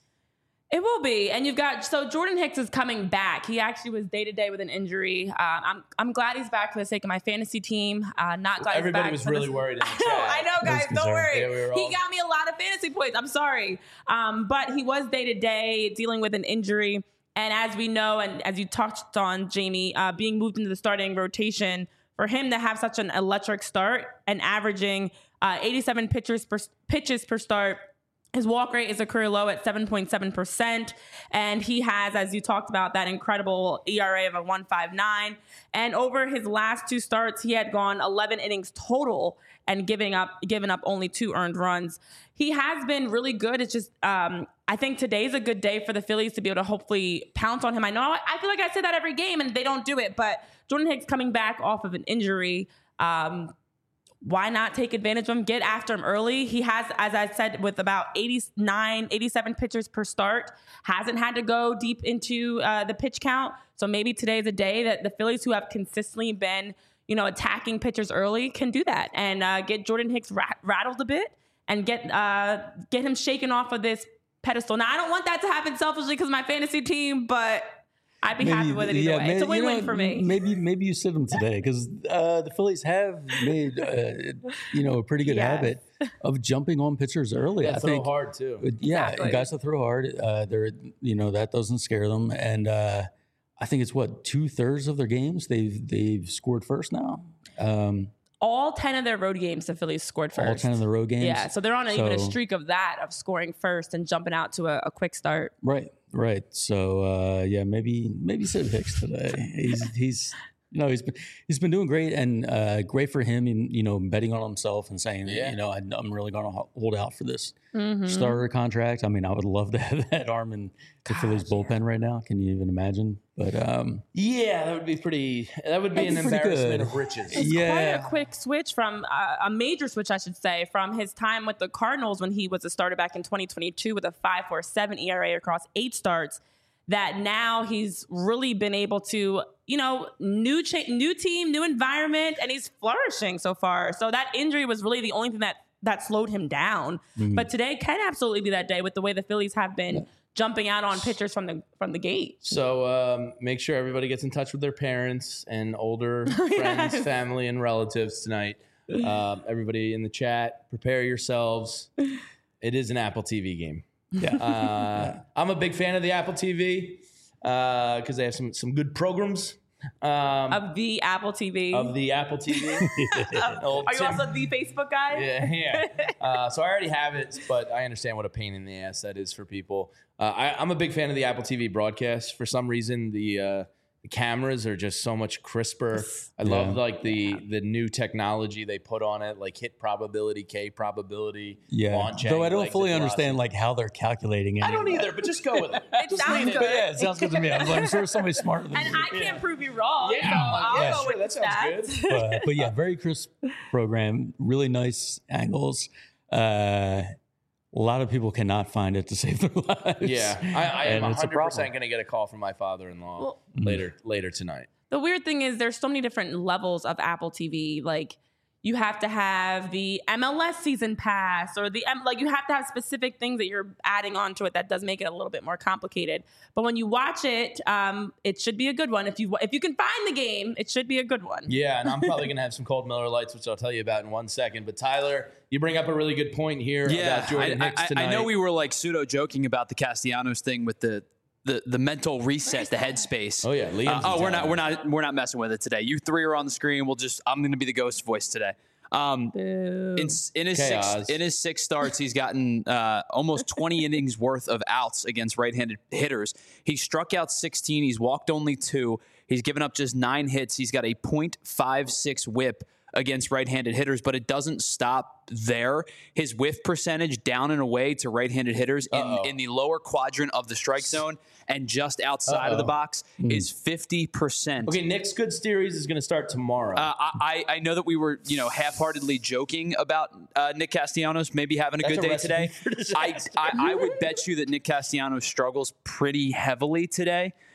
It will be, and you've got so Jordan Hicks is coming back. He actually was day to day with an injury. Um, I'm I'm glad he's back for the sake of my fantasy team. Uh, not glad Everybody he's was back really this, worried in the I know, chat. I know, guys. Don't concerned. worry. Yeah, we were all- He got me a lot of fantasy points. I'm sorry, um, but he was day to day dealing with an injury, and as we know, and as you touched on, Jamie, uh, being moved into the starting rotation, for him to have such an electric start and averaging uh, eighty-seven pitchers per, pitches per start. His walk rate is a career low at seven point seven percent. And he has, as you talked about, that incredible E R A of a one point five nine. And over his last two starts, he had gone eleven innings total and giving up, given up only two earned runs. He has been really good. It's just, um, I think today's a good day for the Phillies to be able to hopefully pounce on him. I know I feel like I say that every game and they don't do it, but Jordan Hicks coming back off of an injury, um, why not take advantage of him, get after him early? He has, as I said, with about eighty-nine, eighty-seven pitchers per start, hasn't had to go deep into uh, the pitch count. So maybe today's a day that the Phillies, who have consistently been, you know, attacking pitchers early, can do that and uh, get Jordan Hicks rat- rattled a bit and get uh, get him shaken off of this pedestal. Now, I don't want that to happen selfishly because my fantasy team, but I'd be happy with it either way. maybe, It's a win-win you know, for me. Maybe maybe you sit him today because uh, the Phillies have made uh, you know a pretty good Yes. habit of jumping on pitchers early. Yeah, I throw think hard too. Uh, Yeah, Exactly. guys that throw hard, uh, they're you know that doesn't scare them, and uh, I think it's what two thirds of their games they've they've scored first now. Um, All ten of their road games, the Phillies scored first. all ten of the road games. Yeah, so they're on a, even a So- streak of that, of scoring first and jumping out to a, a quick start. Right, right. So uh, yeah, maybe maybe Sid Hicks today. He's he's you know he's been he's been doing great and uh, great for him. In, you know, betting on himself and saying, Yeah. you know, I, I'm really going to hold out for this Mm-hmm. starter contract. I mean, I would love to have that arm in the Phillies bullpen right now. Can you even imagine? But um, Yeah, that would be pretty. That would be an That's pretty embarrassment good. of riches. It's Yeah. quite a quick switch from uh, a major switch, I should say, from his time with the Cardinals when he was a starter back in twenty twenty-two with a five point four seven E R A across eight starts. That now he's really been able to, you know, new cha- new team, new environment, and he's flourishing so far. So that injury was really the only thing that that slowed him down. Mm-hmm. But today can absolutely be that day with the way the Phillies have been jumping out on pitchers from the from the gate. So um, make sure everybody gets in touch with their parents and older friends, family, and relatives tonight. Um, everybody in the chat, prepare yourselves. It is an Apple T V game. yeah, Uh, I'm a big fan of the Apple T V because they have some some good programs. Um, Of the Apple T V. of the Apple T V. Old Are you Tim- also the Facebook guy? Yeah, yeah. Uh, so I already have it, but I understand what a pain in the ass that is for people. Uh, I, I'm a big fan of the Apple T V broadcast. For some reason, the uh, the cameras are just so much crisper. I love Yeah. like the the new technology they put on it, like hit probability, K probability. yeah. launch Though I angle, don't exit fully velocity. understand like how they're calculating it. I don't either, but just go with it. It Just sounds lean good. into But yeah, it sounds good to me. I'm, I'm sure somebody's smarter than And me. I can't prove you wrong. Yeah, so I'm like, I'll yeah, go sure, with that the sounds stats. good. but, but yeah, very crisp program, really nice angles. Uh, a lot of people cannot find it to save their lives. Yeah, I, I am And it's a one hundred percent problem. going to get a call from my father-in-law Well- later later tonight. The weird thing is there's so many different levels of Apple T V. Like you have to have the M L S season pass or the M- like you have to have specific things that you're adding onto it that does make it a little bit more complicated. But when you watch it, um, it should be a good one. If you if you can find the game, it should be a good one. Yeah, and I'm probably going to have some cold Miller Lights, which I'll tell you about in one second. But Tyler, you bring up a really good point here Yeah, about Jordan I, Hicks I, tonight. I know we were like pseudo joking about the Castellanos thing with the the, the mental reset, the headspace. Oh, yeah, Liam's Uh, oh, in we're town. not we're not we're not messing with it today. You three are on the screen. We'll just I'm going to be the ghost voice today. Um, Boo. in, in his Chaos. six in his six starts, he's gotten uh, almost twenty innings worth of outs against right-handed hitters. He struck out sixteen. He's walked only two. He's given up just nine hits. He's got a point five six whip against right-handed hitters, but it doesn't stop there. His whiff percentage down and away to right-handed hitters in, Uh-oh. in the lower quadrant of the strike zone and just outside of the Uh-oh. box is fifty percent. Okay, Nick's Good Series is going to start tomorrow. Uh, I, I know that we were, you know, half-heartedly joking about uh, Nick Castellanos maybe having a That's good a day recipe today. for I, disaster. I I would bet you that Nick Castellanos struggles pretty heavily today.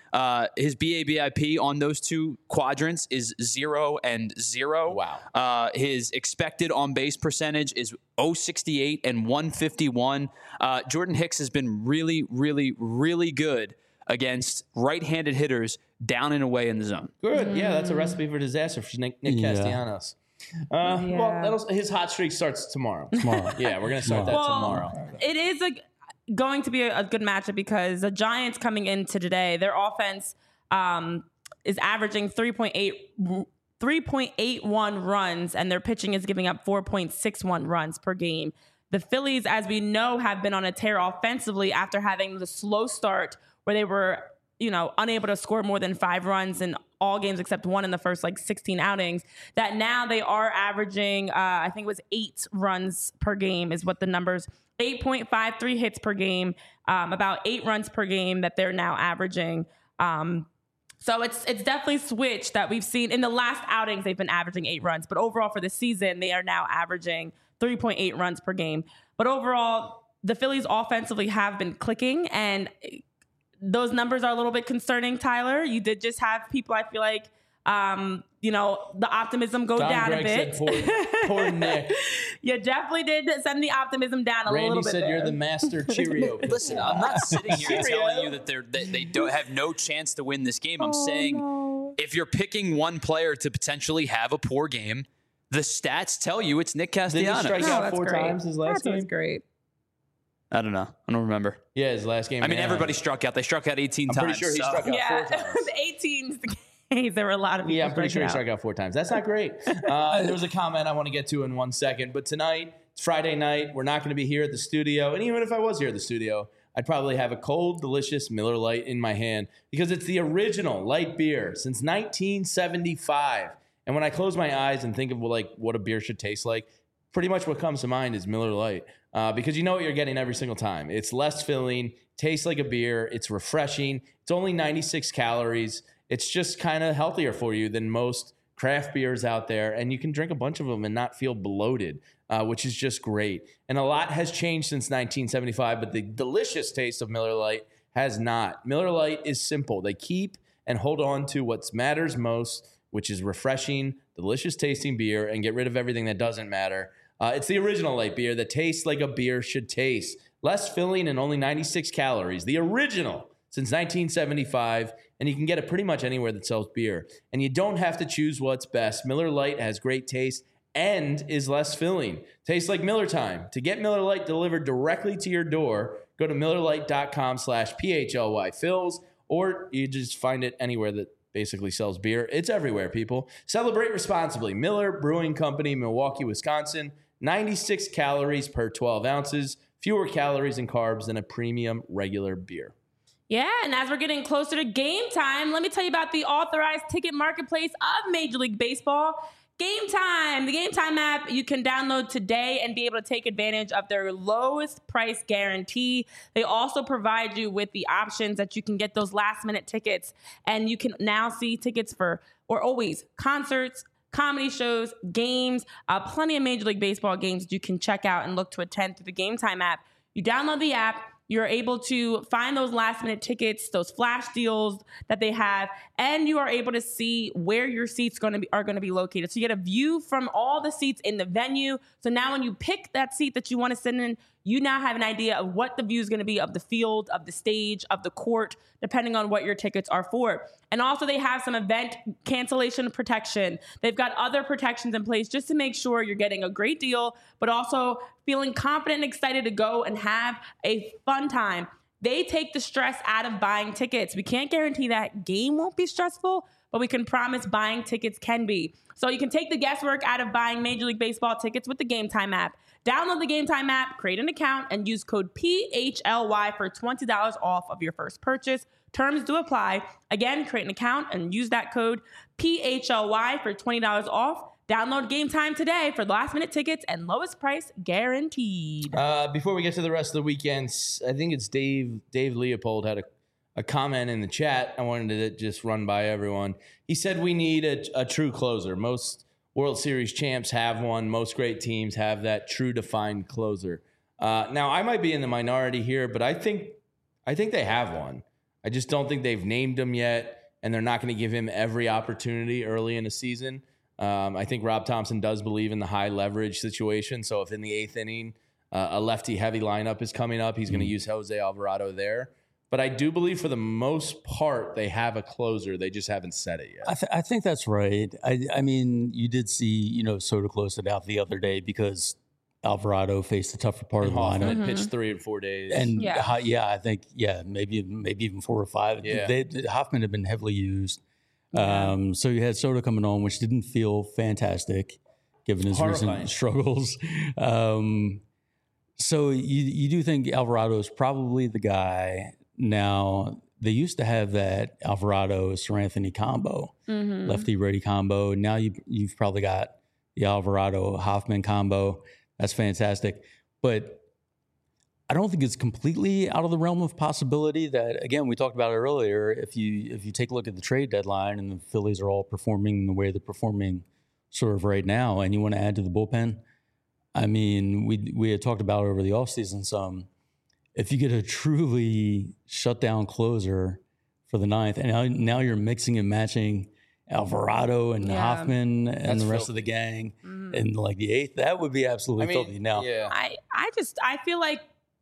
Uh, his B A B I P on those two quadrants is zero and zero. Wow. Uh, his expected on base percentage is oh sixty-eight and one fifty-one. Uh, Jordan Hicks has been really, really, really good against right-handed hitters down and away in the zone. Good. Yeah, that's a recipe for disaster for Nick, Nick Yeah. Castellanos. Uh, Yeah. Well, that'll, his hot streak starts tomorrow. Tomorrow. Yeah, we're going to start that Well, tomorrow. It is a, going to be a, a good matchup because the Giants coming into today, their offense um, is averaging three point eight three point eight one runs, and their pitching is giving up four point six one runs per game. The Phillies, as we know, have been on a tear offensively after having the slow start where they were, you know, unable to score more than five runs in all games except one in the first like sixteen outings. That now they are averaging, uh, I think it was eight runs per game is what the numbers, eight point five three hits per game, um, about eight runs per game that they're now averaging. Um, So it's it's definitely switched that we've seen in the last outings. They've been averaging eight runs, but overall for the season, they are now averaging three point eight runs per game. But overall, the Phillies offensively have been clicking, and those numbers are a little bit concerning, Tyler. You did just have people, I feel like, um, you know, the optimism go Don down Gregg a bit. said, poor, poor Nick. You definitely did send the optimism down a Randy little bit said there. you're the master Cheerio. Listen, I'm not sitting here Cheerio. telling you that they're that they don't have no chance to win this game. I'm Oh, saying no. if you're picking one player to potentially have a poor game, the stats tell you it's Nick Did he Castellanos. strike Oh, out that's four great. times his last That game? was great. I don't know. I don't remember. Yeah, his last game. I mean, yeah. everybody struck out. They struck out eighteen I'm times. pretty sure he so- struck out Yeah, four times. the eighteen games, there were a lot of people Yeah, I'm pretty sure he striking struck out. out four times. That's not great. Uh, there was a comment I want to get to in one second, but tonight, it's Friday night. We're not going to be here at the studio. And even if I was here at the studio, I'd probably have a cold, delicious Miller Lite in my hand because it's the original light beer since nineteen seventy-five. And when I close my eyes and think of like what a beer should taste like, pretty much what comes to mind is Miller Lite uh, because you know what you're getting every single time. It's less filling, tastes like a beer, it's refreshing, it's only ninety-six calories. It's just kind of healthier for you than most craft beers out there, and you can drink a bunch of them and not feel bloated, uh, which is just great. And a lot has changed since nineteen seventy-five, but the delicious taste of Miller Lite has not. Miller Lite is simple. They keep and hold on to what matters most, which is refreshing, delicious tasting beer, and get rid of everything that doesn't matter. Uh, it's the original light beer that tastes like a beer should taste. Less filling and only ninety-six calories. The original since nineteen seventy-five, and you can get it pretty much anywhere that sells beer. And you don't have to choose what's best. Miller Lite has great taste and is less filling. Tastes like Miller time. To get Miller Lite delivered directly to your door, go to millerlite.com slash PHLY fills, or you just find it anywhere that basically sells beer. It's everywhere, people. Celebrate responsibly. Miller Brewing Company, Milwaukee, Wisconsin. ninety-six calories per twelve ounces. Fewer calories and carbs than a premium regular beer. Yeah, and as we're getting closer to game time, let me tell you about the authorized ticket marketplace of Major League Baseball. Game Time, the Game Time app you can download today and be able to take advantage of their lowest price guarantee. They also provide you with the options that you can get those last minute tickets, and you can now see tickets for, or always, concerts, comedy shows, games, uh, plenty of Major League Baseball games that you can check out and look to attend through the Game Time app. You download the app. You're able to find those last minute tickets, those flash deals that they have, and you are able to see where your seats going to be are going to be located. So you get a view from all the seats in the venue. So now when you pick that seat that you want to sit in, you now have an idea of what the view is going to be of the field, of the stage, of the court, depending on what your tickets are for. And also they have some event cancellation protection. They've got other protections in place just to make sure you're getting a great deal, but also feeling confident and excited to go and have a fun time. They take the stress out of buying tickets. We can't guarantee that game won't be stressful, but we can promise buying tickets can be. So you can take the guesswork out of buying Major League Baseball tickets with the Game Time app. Download the Game Time app, create an account, and use code P H L Y for twenty dollars off of your first purchase. Terms do apply. Again, create an account and use that code P H L Y for twenty dollars off. Download Game Time today for last minute tickets and lowest price guaranteed. Uh, before we get to the rest of the weekends, I think it's Dave Dave Leopold had a, a comment in the chat. I wanted to just run by everyone. He said we need a, a true closer. Most World Series champs have one. Most great teams have that true defined closer. Uh, now, I might be in the minority here, but I think I think they have one. I just don't think they've named him yet, and they're not going to give him every opportunity early in the season. Um, I think Rob Thompson does believe in the high leverage situation. So if in the eighth inning, uh, a lefty heavy lineup is coming up, he's going to use Jose Alvarado there. But I do believe for the most part, they have a closer. They just haven't said it yet. I, th- I think that's right. I, I mean, you did see, you know, Soto close it out the other day because Alvarado faced the tougher part And of the Hoffman lineup. had pitched three or four days. And Yeah. yeah. yeah, I think, yeah, maybe maybe even four or five. Yeah. They, Hoffman had been heavily used. Yeah. Um, so you had Soto coming on, which didn't feel fantastic given his Horrifying. recent struggles. Um, so you, you do think Alvarado is probably the guy. Now, they used to have that Alvarado Sir Anthony combo, Mhm. lefty righty combo. Now you, you've probably got the Alvarado Hoffman combo. That's fantastic. But I don't think it's completely out of the realm of possibility that, again, we talked about it earlier. If you if you take a look at the trade deadline and the Phillies are all performing the way they're performing sort of right now, and you want to add to the bullpen, I mean, we we had talked about it over the offseason some. If you get a truly shutdown closer for the ninth, and now, now you're mixing and matching Alvarado and Yeah. Hoffman and That's the rest filthy. of the gang Mhm. in like the eighth, that would be absolutely I mean, filthy. Now, yeah. I, I just I feel like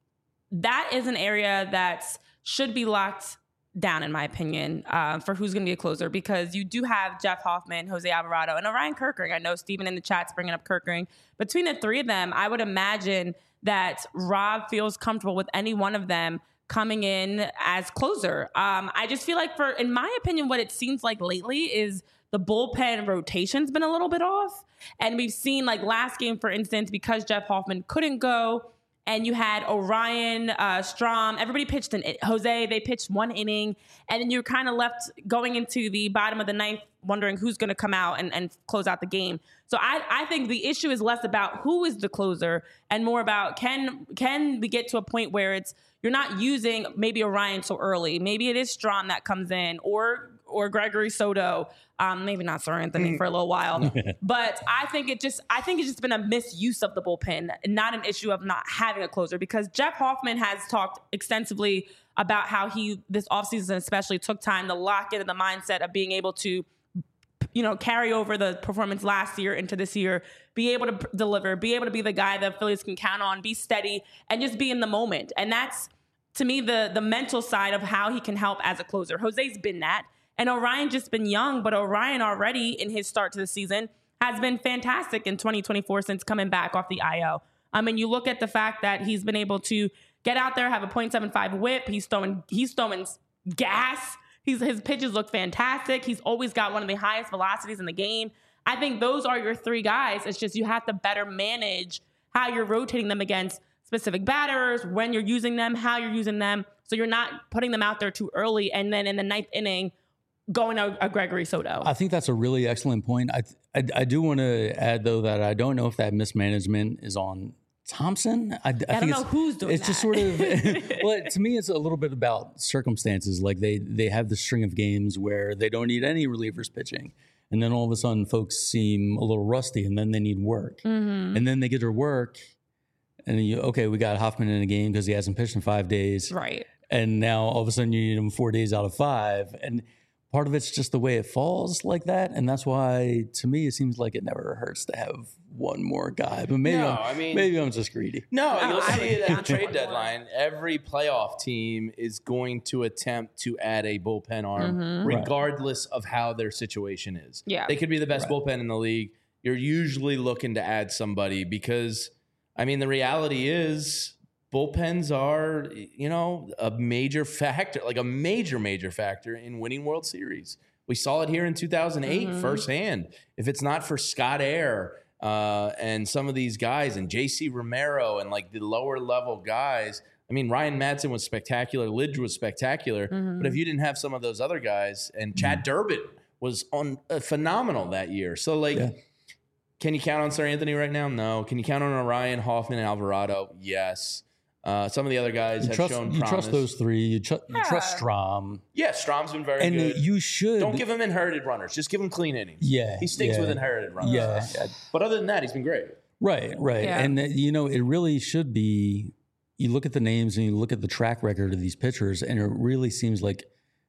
that is an area that should be locked down, in my opinion, uh, for who's going to be a closer, because you do have Jeff Hoffman, Jose Alvarado, and Orion Kirkering. I know Steven in the chat's bringing up Kirkering. Between the three of them, I would imagine that Rob feels comfortable with any one of them coming in as closer. Um, I just feel like, for, in my opinion, what it seems like lately is the bullpen rotation's been a little bit off. And we've seen, like last game, for instance, because Jeff Hoffman couldn't go, and you had Orion, uh, Strom, everybody pitched an Jose, they pitched one inning, and then you're kind of left going into the bottom of the ninth wondering who's going to come out and, and close out the game. So I, I think the issue is less about who is the closer and more about can can we get to a point where it's you're not using maybe Orion so early. Maybe it is Strom that comes in, or or Gregory Soto, um, maybe not Sir Anthony for a little while. But I think it just I think it's just been a misuse of the bullpen, not an issue of not having a closer, because Jeff Hoffman has talked extensively about how he this offseason especially took time to lock into the mindset of being able to, you know, carry over the performance last year into this year, be able to p- deliver, be able to be the guy the Phillies can count on, be steady, and just be in the moment. And that's, to me, the the mental side of how he can help as a closer. Jose's been that. And Orion just been young, but Orion already in his start to the season has been fantastic in twenty twenty-four since coming back off the I L. I mean, you look at the fact that he's been able to get out there, have a point seven five whip. He's throwing, he's throwing gas. He's, his pitches look fantastic. He's always got one of the highest velocities in the game. I think those are your three guys. It's just you have to better manage how you're rotating them against specific batters, when you're using them, how you're using them, so you're not putting them out there too early and then in the ninth inning going to a Gregory Soto. I think that's a really excellent point. I, I, I do want to add, though, that I don't know if that mismanagement is on Thompson. I, I, I think don't know it's, who's doing it's just that. sort of, well, to me, it's a little bit about circumstances. Like they, they have the string of games where they don't need any relievers pitching. And then all of a sudden, folks seem a little rusty, and then they need work. Mm-hmm. And then they get their work, and then you, okay, we got Hoffman in a game because he hasn't pitched in five days. Right. And now all of a sudden you need him four days out of five. And part of it's just the way it falls like that. And that's why, to me, it seems like it never hurts to have one more guy. But maybe, No, I'm, I mean- maybe I'm just greedy. No, No, you'll I see would it at the not trade want more. deadline. Every playoff team is going to attempt to add a bullpen arm, Mhm. Right. regardless of how their situation is. Yeah. They could be the best Right. bullpen in the league. You're usually looking to add somebody because, I mean, the reality is bullpens are, you know, a major factor, like a major, major factor in winning World Series. We saw it here in two thousand eight Mhm. firsthand. If it's not for Scott Air uh, and some of these guys and J C Romero and like the lower level guys, I mean, Ryan Madsen was spectacular. Lidge was spectacular. Mhm. But if you didn't have some of those other guys, and Chad Durbin was on uh, phenomenal that year. So like, Yeah. can you count on Sir Anthony right now? No. Can you count on Orion, Hoffman, and Alvarado? Yes. Uh, some of the other guys You have trust, shown you promise. trust those three. You, tr- you trust Yeah. Strom. Yeah, Strom's been very And good. you should. Don't give him inherited runners. Just give him clean innings. Yeah. He stinks yeah, with inherited runners. Yeah. yeah. But other than that, he's been great. Right, right. Yeah. And, uh, you know, it really should be, you look at the names and you look at the track record of these pitchers, and it really seems like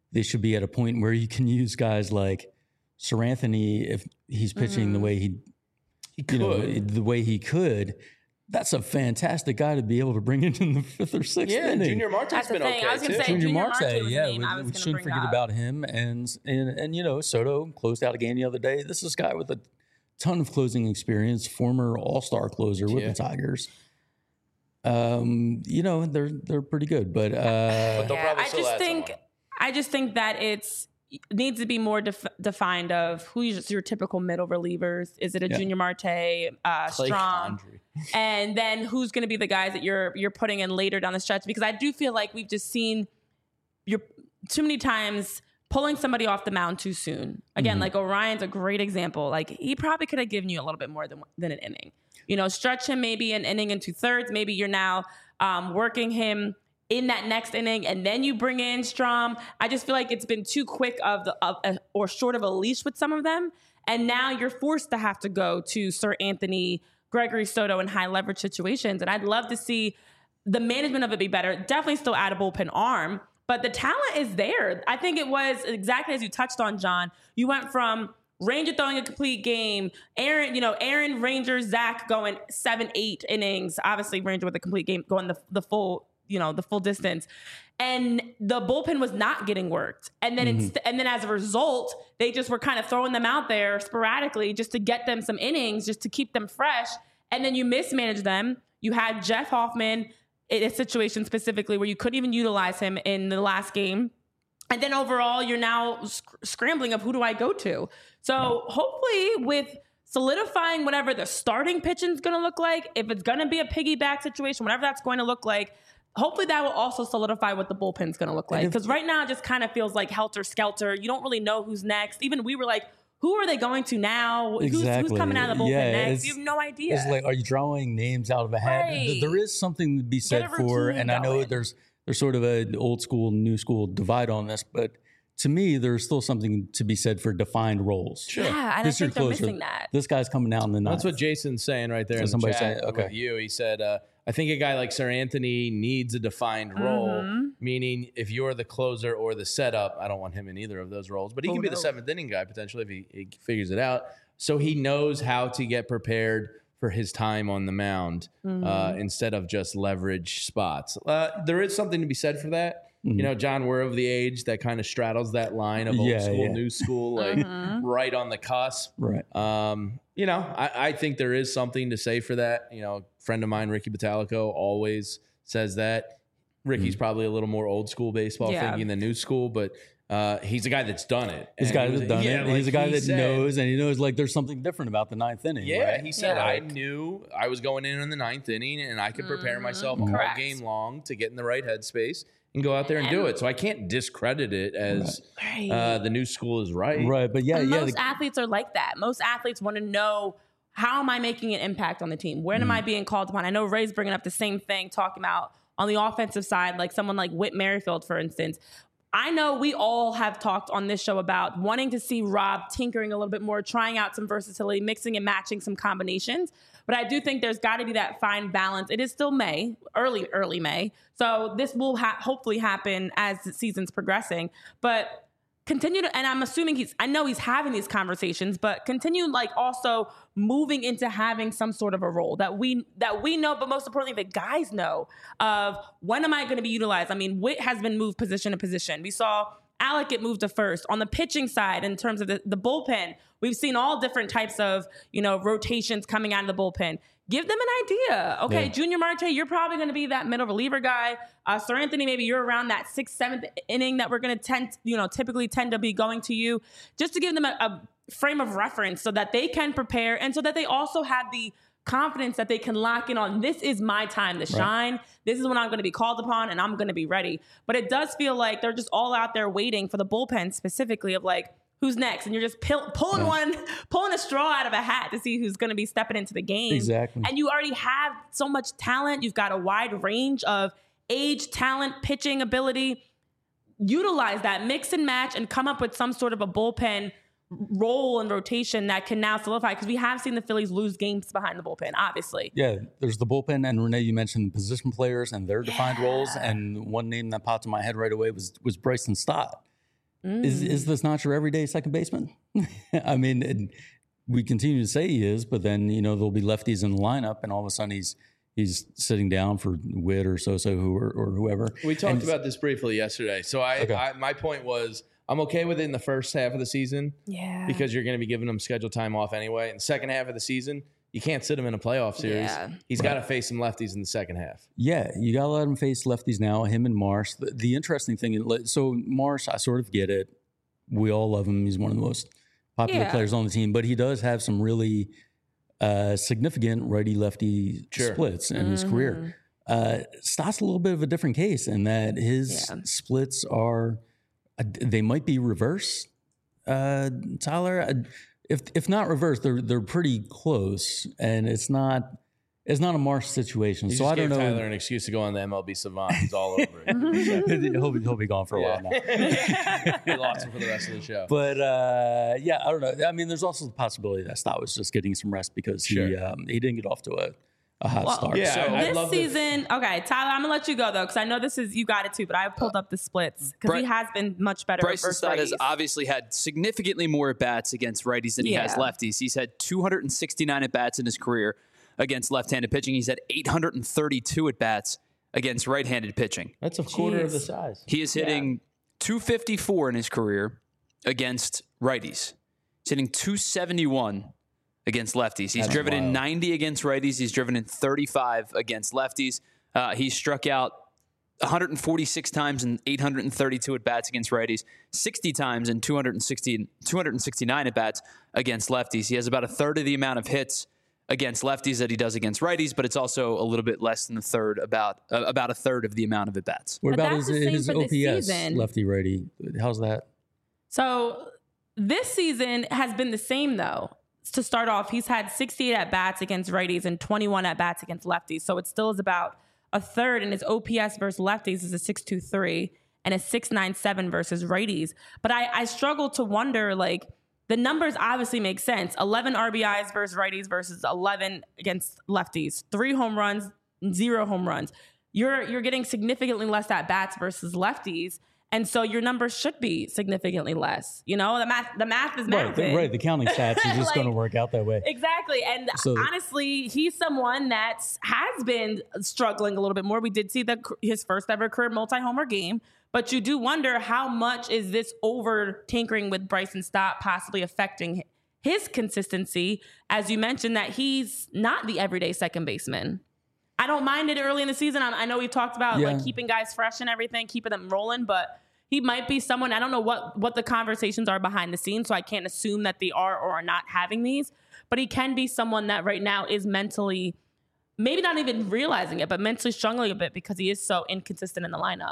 they should be at a point where you can use guys like Sir Anthony if he's pitching mm. the way he, he you know, the way he could. That's a fantastic guy to be able to bring into the fifth or sixth yeah, inning. Junior Marte's been okay I was too. Say, Junior, Junior Marte, Marte was yeah, the name I we, was we shouldn't forget up. about him. And, and and you know, Soto closed out a game the other day. This is a guy with a ton of closing experience, former All-Star closer with yeah. the Tigers. Um, you know, they're they're pretty good, but uh, but they'll yeah, probably I still just add think someone. I just think that it's needs to be more def- defined of who's your typical middle relievers. Is it a Yeah. Junior Marte, uh, Clay Strong, Condry. and then who's going to be the guys that you're you're putting in later down the stretch? Because I do feel like we've just seen you're too many times pulling somebody off the mound too soon. Again, Mm-hmm. like Orion's a great example. Like he probably could have given you a little bit more than than an inning. You know, stretch him maybe an inning and two thirds. Maybe you're now um, working him in that next inning, and then you bring in Strom. I just feel like it's been too quick of the of a, or short of a leash with some of them, and now you're forced to have to go to Sir Anthony, Gregory Soto in high leverage situations. And I'd love to see the management of it be better. Definitely still add a bullpen arm, but the talent is there. I think it was exactly as you touched on, John. You went from Ranger throwing a complete game, Aaron, you know, Aaron, Ranger, Zach going seven, eight innings. Obviously, Ranger with a complete game going the the full, you know, the full distance, and the bullpen was not getting worked. And then mm-hmm. it's and then as a result, they just were kind of throwing them out there sporadically just to get them some innings, just to keep them fresh. And then you mismanage them. You had Jeff Hoffman in a situation specifically where you couldn't even utilize him in the last game. And then overall, you're now sc- scrambling of who do I go to? So hopefully with solidifying whatever the starting pitching is going to look like, if it's going to be a piggyback situation, whatever that's going to look like, hopefully that will also solidify what the bullpen's going to look like. Because right now it just kind of feels like helter-skelter. You don't really know who's next. Even we were like, who are they going to now? Exactly. Who's, who's coming out of the bullpen yeah, next? You have no idea. It's like, are you drawing names out of a hat? Right. There is something to be said for, and I know going. there's there's sort of an old school, new school divide on this, but to me, there's still something to be said for defined roles. Sure. Yeah, and this I think they're closer. missing that. This guy's coming out in the ninth. That's what Jason's saying right there So in the somebody chat saying, okay. with you. He said, uh, I think a guy like Sir Anthony needs a defined role, Mm-hmm. meaning if you're the closer or the setup, I don't want him in either of those roles, but he Oh, can be no. the seventh inning guy potentially if he, he figures it out. So he knows how to get prepared for his time on the mound Mm-hmm. uh, instead of just leverage spots. Uh, there is something to be said for that. You know, John, we're of the age that kind of straddles that line of old Yeah, school, yeah. new school, like Mm-hmm. right on the cusp. Right. Um, you know, I, I think there is something to say for that. You know, a friend of mine, Ricky Batalico, always says that. Ricky's probably a little more old school baseball Yeah. thinking than new school, but uh, he's a guy that's done it. He's a And guy he was- that's done yeah, it. like He's a guy he that said- knows, and he knows like there's something different about the ninth inning. Yeah, right? he said, Yeah. I knew I was going in in the ninth inning and I could prepare myself all Correct. game long to get in the right headspace and go out there and do it. So I can't discredit it as Right. uh, the new school is right. Right, but yeah, And yeah. most the- athletes are like that. Most athletes want to know, how am I making an impact on the team? When am I being called upon? I know Ray's bringing up the same thing, talking about on the offensive side, like someone like Whit Merrifield, for instance. I know we all have talked on this show about wanting to see Rob tinkering a little bit more, trying out some versatility, mixing and matching some combinations. But I do think there's got to be that fine balance. It is still May, early, early May. So this will ha- hopefully happen as the season's progressing. But continue to, and I'm assuming he's, I know he's having these conversations, but continue like also moving into having some sort of a role that we, that we know, but most importantly, the guys know of when am I going to be utilized? I mean, Whit has been moved position to position. We saw Alec get moved to first. On the pitching side, in terms of the, the bullpen, we've seen all different types of, you know, rotations coming out of the bullpen. Give them an idea. Okay, Yeah. Junior Marte, you're probably going to be that middle reliever guy. Uh, Sir Anthony, maybe you're around that sixth, seventh inning that we're going to tend, you know, typically tend to be going to you, just to give them a, a frame of reference so that they can prepare and so that they also have the confidence that they can lock in on, this is my time to shine. Right. This is when I'm going to be called upon and I'm going to be ready. But it does feel like they're just all out there waiting for the bullpen specifically of like, who's next? And you're just pill- pulling yeah. one, pulling a straw out of a hat to see who's going to be stepping into the game. Exactly. And you already have so much talent. You've got a wide range of age, talent, pitching ability. Utilize that, mix and match, and come up with some sort of a bullpen role and rotation that can now solidify, because we have seen the Phillies lose games behind the bullpen, obviously. Yeah, there's the bullpen, and Renee, you mentioned the position players and their defined Yeah. roles, and one name that popped in my head right away was was Bryson Stott. Mm. Is is this not your everyday second baseman? I mean, it, we continue to say he is, but then you know there'll be lefties in the lineup, and all of a sudden he's he's sitting down for Witt or Sosa who or, or whoever. We talked And- about this briefly yesterday. So I, Okay. I my point was I'm okay with it in the first half of the season Yeah. because you're going to be giving him scheduled time off anyway. In the second half of the season, you can't sit him in a playoff series. Yeah. He's got to face some lefties in the second half. Yeah, you got to let him face lefties now, him and Marsh. The, the interesting thing, is, so Marsh, I sort of get it. We all love him. He's one of the most popular Yeah. players on the team, but he does have some really uh, significant righty-lefty Sure. splits in his career. Uh, Stott's a little bit of a different case in that his Yeah. splits are, uh, they might be reverse, uh, Tyler. Uh, If if not reverse, they're they're pretty close, and it's not it's not a Marsh situation. You so just I don't gave know. Tyler an excuse to go on the M L B Savant. He's all over it. he'll, be, he'll be gone for a while now. We lost him for the rest of the show. But uh, yeah, I don't know. I mean, there's also the possibility that Stott was just getting some rest because he Sure. um, he didn't get off to a, a hot Well, start. yeah, So- I- I'd This love to- season, okay, Tyler, I'm gonna let you go though, because I know this is you got it too, but I pulled up the splits because Bry- he has been much better. Bryson versus Stott has righties. obviously had significantly more at bats against righties than he has Yeah. lefties. He's had two hundred sixty-nine at bats in his career against left-handed pitching. He's had eight hundred thirty-two at bats against right-handed pitching. That's a quarter of Jeez. the size. He is hitting two fifty-four in his career against righties. He's hitting two seventy-one against lefties. He's That's driven in wild. ninety against righties. He's driven in thirty-five against lefties. Uh, he struck out one hundred forty-six times and eight hundred thirty-two at bats against righties, sixty times and two hundred sixty, two hundred sixty-nine at bats against lefties. He has about a third of the amount of hits against lefties that he does against righties, but it's also a little bit less than a third, about uh, about a third of the amount of at bats. What But about that's his, the same his for O this P S season. lefty righty? How's that? So this season has been the same though. To start off, he's had sixty-eight at bats against righties and twenty-one at bats against lefties. So it still is about a third, and his O P S versus lefties is a six two three and a six ninety-seven versus righties. But I, I struggle to wonder, like, the numbers obviously make sense. eleven R B Is versus righties versus eleven against lefties. Three home runs, zero home runs. You're you're getting significantly less at bats versus lefties. And so your numbers should be significantly less. You know, the math the math is Right, math. the, right. The counting stats are just Like- going to work out that way. Exactly. And So- honestly, he's someone that has been struggling a little bit more. We did see the, his first ever career multi-homer game, but you do wonder how much is this over tinkering with Bryson Stott possibly affecting his consistency, as you mentioned that he's not the everyday second baseman. I don't mind it early in the season. I, I know we've talked about Yeah. like keeping guys fresh and everything, keeping them rolling, but he might be someone, I don't know what, what the conversations are behind the scenes, so I can't assume that they are or are not having these, but he can be someone that right now is mentally, maybe not even realizing it, but mentally struggling a bit because he is so inconsistent in the lineup.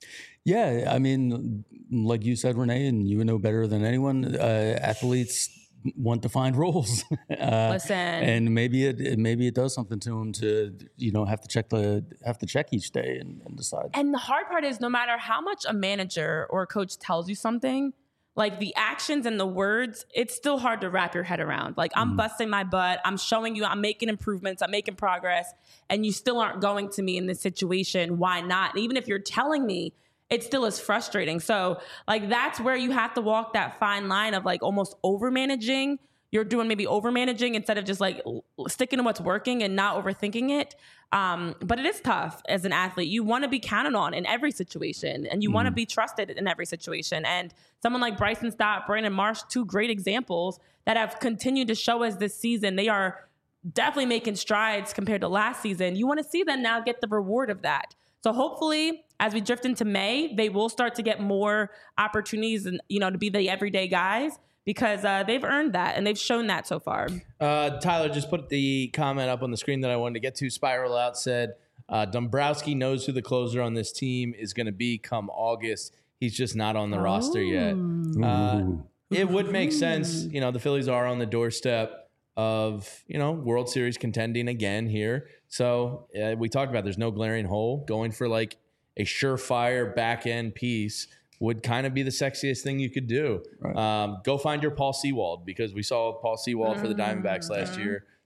Yeah, I mean, like you said, Renee, and you would know better than anyone. Uh, athletes want to find roles. uh, Listen. and maybe it, it maybe it does something to them to you know have to check the have to check each day and, and decide. And the hard part is no matter how much a manager or a coach tells you something, like the actions and the words, it's still hard to wrap your head around. Like I'm busting my butt. I'm showing you I'm making improvements. I'm making progress. And you still aren't going to me in this situation. Why not? And even if you're telling me, it still is frustrating. So like that's where you have to walk that fine line of like almost over managing. You're doing maybe over managing instead of just like l- sticking to what's working and not overthinking it. Um, but it is tough as an athlete. You want to be counted on in every situation and you want to be trusted in every situation. And someone like Bryson Stott, Brandon Marsh, two great examples that have continued to show us this season. They are definitely making strides compared to last season. You want to see them now get the reward of that. So hopefully as we drift into May, they will start to get more opportunities and, you know, to be the everyday guys because uh, they've earned that and they've shown that so far. Uh, Tyler just put the comment up on the screen that I wanted to get to. Spiral Out said, uh, Dombrowski knows who the closer on this team is going to be come August. He's just not on the roster yet. Uh, Ooh. it would make sense. You know, the Phillies are on the doorstep of, you know, World Series contending again here. So uh, we talked about there's no glaring hole. Going for like a surefire back end piece would kind of be the sexiest thing you could do. Right. Um, go find your Paul Sewald because we saw Paul Sewald for the Diamondbacks last year.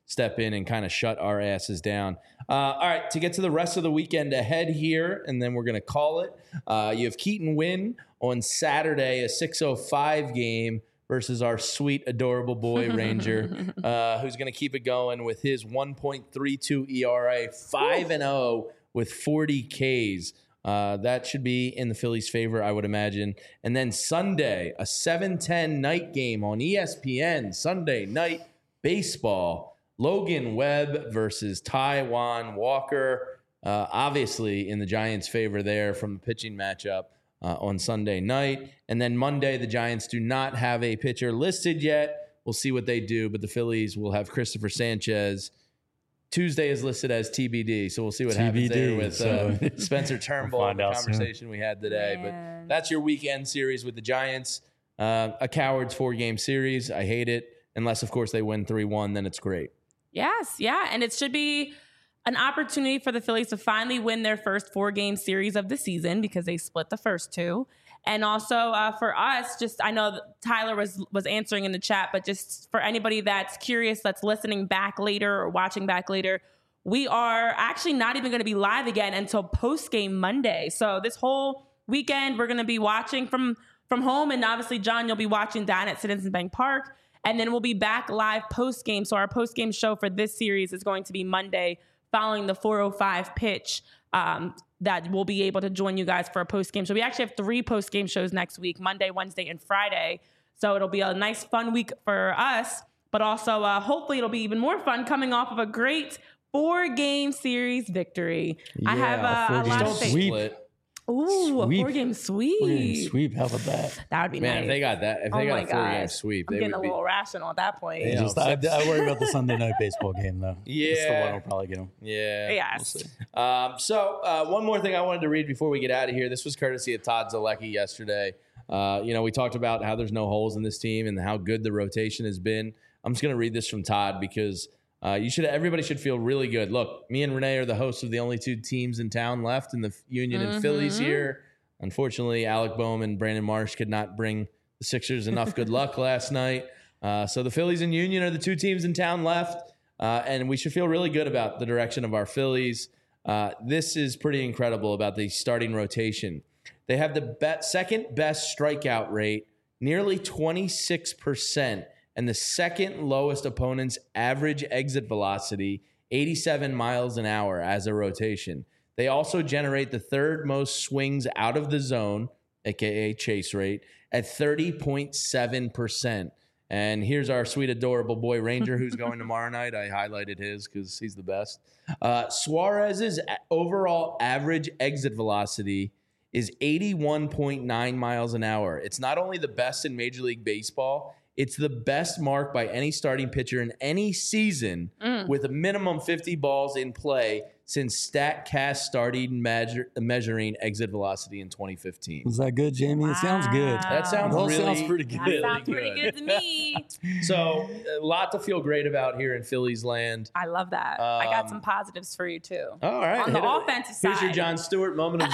step in and kind of shut our asses down. Uh, all right, to get to the rest of the weekend ahead here, and then we're going to call it. Uh, you have Keaton Wynn on Saturday, a six oh five game versus our sweet, adorable boy Ranger, uh, who's going to keep it going with his one point three two E R A, five and oh with forty Ks. Uh, that should be in the Phillies' favor, I would imagine. And then Sunday, a seven ten night game on E S P N, Sunday night baseball. Logan Webb versus Taijuan Walker. Uh, obviously in the Giants' favor there from the pitching matchup uh, on Sunday night. And then Monday, the Giants do not have a pitcher listed yet. We'll see what they do, but the Phillies will have Christopher Sanchez. Tuesday is listed as T B D, so we'll see what T B D, happens there with so uh, Spencer Turnbull we'll and the find out soon. conversation we had today. Man. But that's your weekend series with the Giants. Uh, a coward's four-game series. I hate it. Unless, of course, they win three one, then it's great. Yes, yeah. And it should be an opportunity for the Phillies to finally win their first four-game series of the season because they split the first two. And also uh, for us, just I know that Tyler was was answering in the chat, but just for anybody that's curious, that's listening back later or watching back later, we are actually not even going to be live again until post-game Monday. So this whole weekend, we're going to be watching from, from home. And obviously, John, you'll be watching down at Citizens Bank Park. And then we'll be back live post-game. So our post-game show for this series is going to be Monday following the four oh five pitch. Um, that we'll be able to join you guys for a post-game show. We actually have three post-game shows next week, Monday, Wednesday, and Friday. So it'll be a nice, fun week for us. But also, uh, hopefully, it'll be even more fun coming off of a great four-game series victory. I Yeah, have uh, a four-game lot of Don't faith. sweep. split. Ooh, a Sweep. four-game sweep. Four-game sweep. How about that? That would be Man, nice. if they got that, if Oh they got my a four-game gosh. sweep, I'm they getting would a be. little rational at that point. Yeah. Just, I, I worry about the Sunday night baseball game, though. That's the Yeah. one will probably get them. Yeah. Yes. Um, so uh, one more thing I wanted to read before we get out of here. This was courtesy of Todd Zalecki yesterday. Uh, you know, we talked about how there's no holes in this team and how good the rotation has been. I'm just going to read this from Todd because uh, you should. Everybody should feel really good. Look, me and Renee are the hosts of the only two teams in town left in the Union and Phillies here. Unfortunately, Alec Boehm and Brandon Marsh could not bring the Sixers enough good luck last night. Uh, so the Phillies and Union are the two teams in town left. Uh, and we should feel really good about the direction of our Phillies. Uh, this is pretty incredible about the starting rotation. They have the be- second best strikeout rate, nearly twenty-six percent, and the second lowest opponent's average exit velocity, eighty-seven miles an hour as a rotation. They also generate the third most swings out of the zone, aka chase rate, at thirty point seven percent. And here's our sweet, adorable boy Ranger who's going tomorrow night. I highlighted his because he's the best. Uh, Suarez's overall average exit velocity is eighty-one point nine miles an hour. It's not only the best in Major League Baseball, it's the best mark by any starting pitcher in any season mm. with a minimum fifty balls in play since StatCast started measure, measuring exit velocity in twenty fifteen. Was that good, Jamie? Wow. It sounds good. That sounds It all really sounds pretty good. That sounds pretty good to me. So a lot to feel great about here in Phillies land. I love that. I got Um, some positives for you too. All right. On the hit it. offensive Here's your side. John Stewart moment of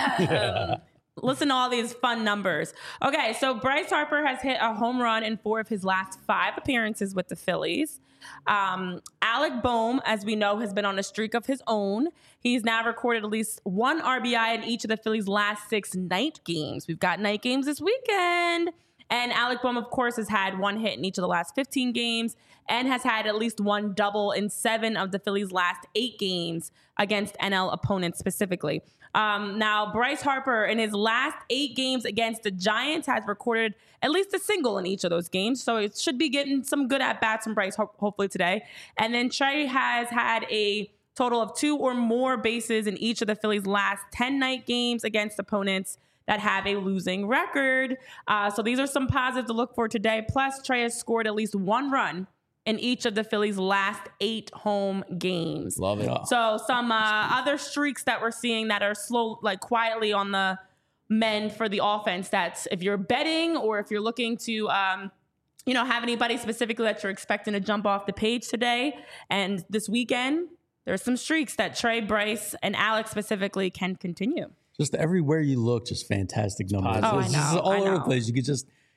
zen. Listen to all these fun numbers. Okay, so Bryce Harper has hit a home run in four of his last five appearances with the Phillies. Um, Alec Boehm, as we know, has been on a streak of his own. He's now recorded at least one R B I in each of the Phillies' last six night games. We've got night games this weekend. And Alec Boehm, of course, has had one hit in each of the last fifteen games and has had at least one double in seven of the Phillies' last eight games against N L opponents specifically. Um, now, Bryce Harper, in his last eight games against the Giants, has recorded at least a single in each of those games. So it should be getting some good at-bats from Bryce, ho- hopefully today. And then Trey has had a total of two or more bases in each of the Phillies' last ten night games against opponents that have a losing record. Uh, so these are some positives to look for today. Plus, Trey has scored at least one run in each of the Phillies' last eight home games. Love it. So some uh, other streaks that we're seeing that are slow, like quietly on the mend for the offense. That's if you're betting or if you're looking to, um, you know, have anybody specifically that you're expecting to jump off the page today and this weekend, there's some streaks that Trey, Bryce, and Alex specifically can continue. Just everywhere you look, just fantastic numbers. Oh, I It's just know, all I over the know. place. You could just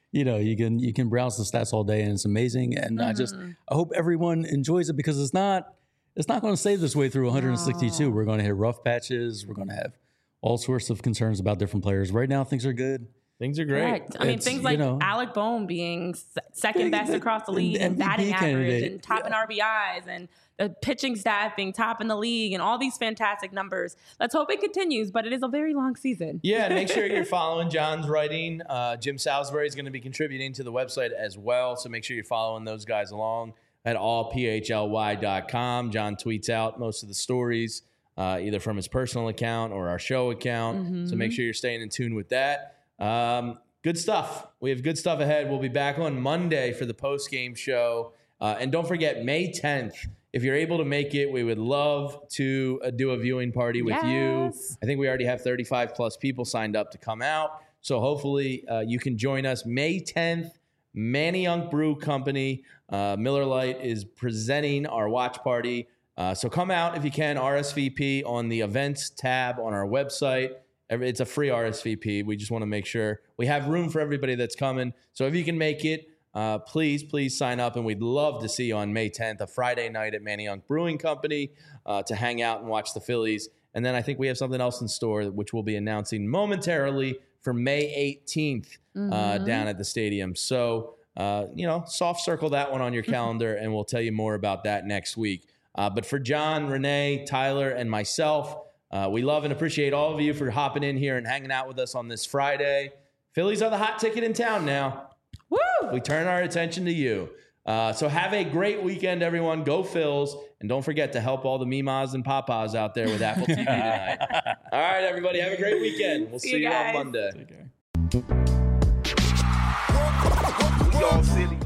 you know, you can you can browse the stats all day, and it's amazing. And mm-hmm. I just I hope everyone enjoys it, because it's not it's not going to stay this way through one hundred sixty-two. No. We're going to hit rough patches. We're going to have all sorts of concerns about different players. Right now, things are good. Things are great. Correct. I mean, it's, things like you know, Alec Bohm being second best across the league and batting average and top in R B Is, and the pitching staff being top in the league, and all these fantastic numbers. Let's hope it continues, but it is a very long season. Yeah, and make sure you're following John's writing. Uh, Jim Salisbury is going to be contributing to the website as well, so make sure you're following those guys along at all p h l y dot com. John tweets out most of the stories, uh, either from his personal account or our show account, mm-hmm. so make sure you're staying in tune with that. Um, good stuff. We have good stuff ahead. We'll be back on Monday for the post-game show. Uh, and don't forget, May tenth, if you're able to make it, we would love to uh, do a viewing party with yes. you. I think we already have thirty-five plus people signed up to come out. So hopefully uh, you can join us May tenth. Manayunk Brew Company, uh, Miller Lite is presenting our watch party. Uh, so come out if you can, R S V P on the events tab on our website. It's a free R S V P. We just want to make sure we have room for everybody that's coming. So if you can make it, uh, please, please sign up. And we'd love to see you on May tenth, a Friday night at Manayunk Brewing Company, uh, to hang out and watch the Phillies. And then I think we have something else in store, which we'll be announcing momentarily for May eighteenth mm-hmm. uh, down at the stadium. So, uh, you know, soft circle that one on your calendar, and we'll tell you more about that next week. Uh, but for John, Renee, Tyler, and myself, Uh, we love and appreciate all of you for hopping in here and hanging out with us on this Friday. Phillies are the hot ticket in town now. Woo! We turn our attention to you. Uh, so have a great weekend, everyone. Go Phils. And don't forget to help all the Mimas and Papas out there with Apple T V tonight. All right, everybody. Have a great weekend. We'll see, see you, you on Monday. We all silly.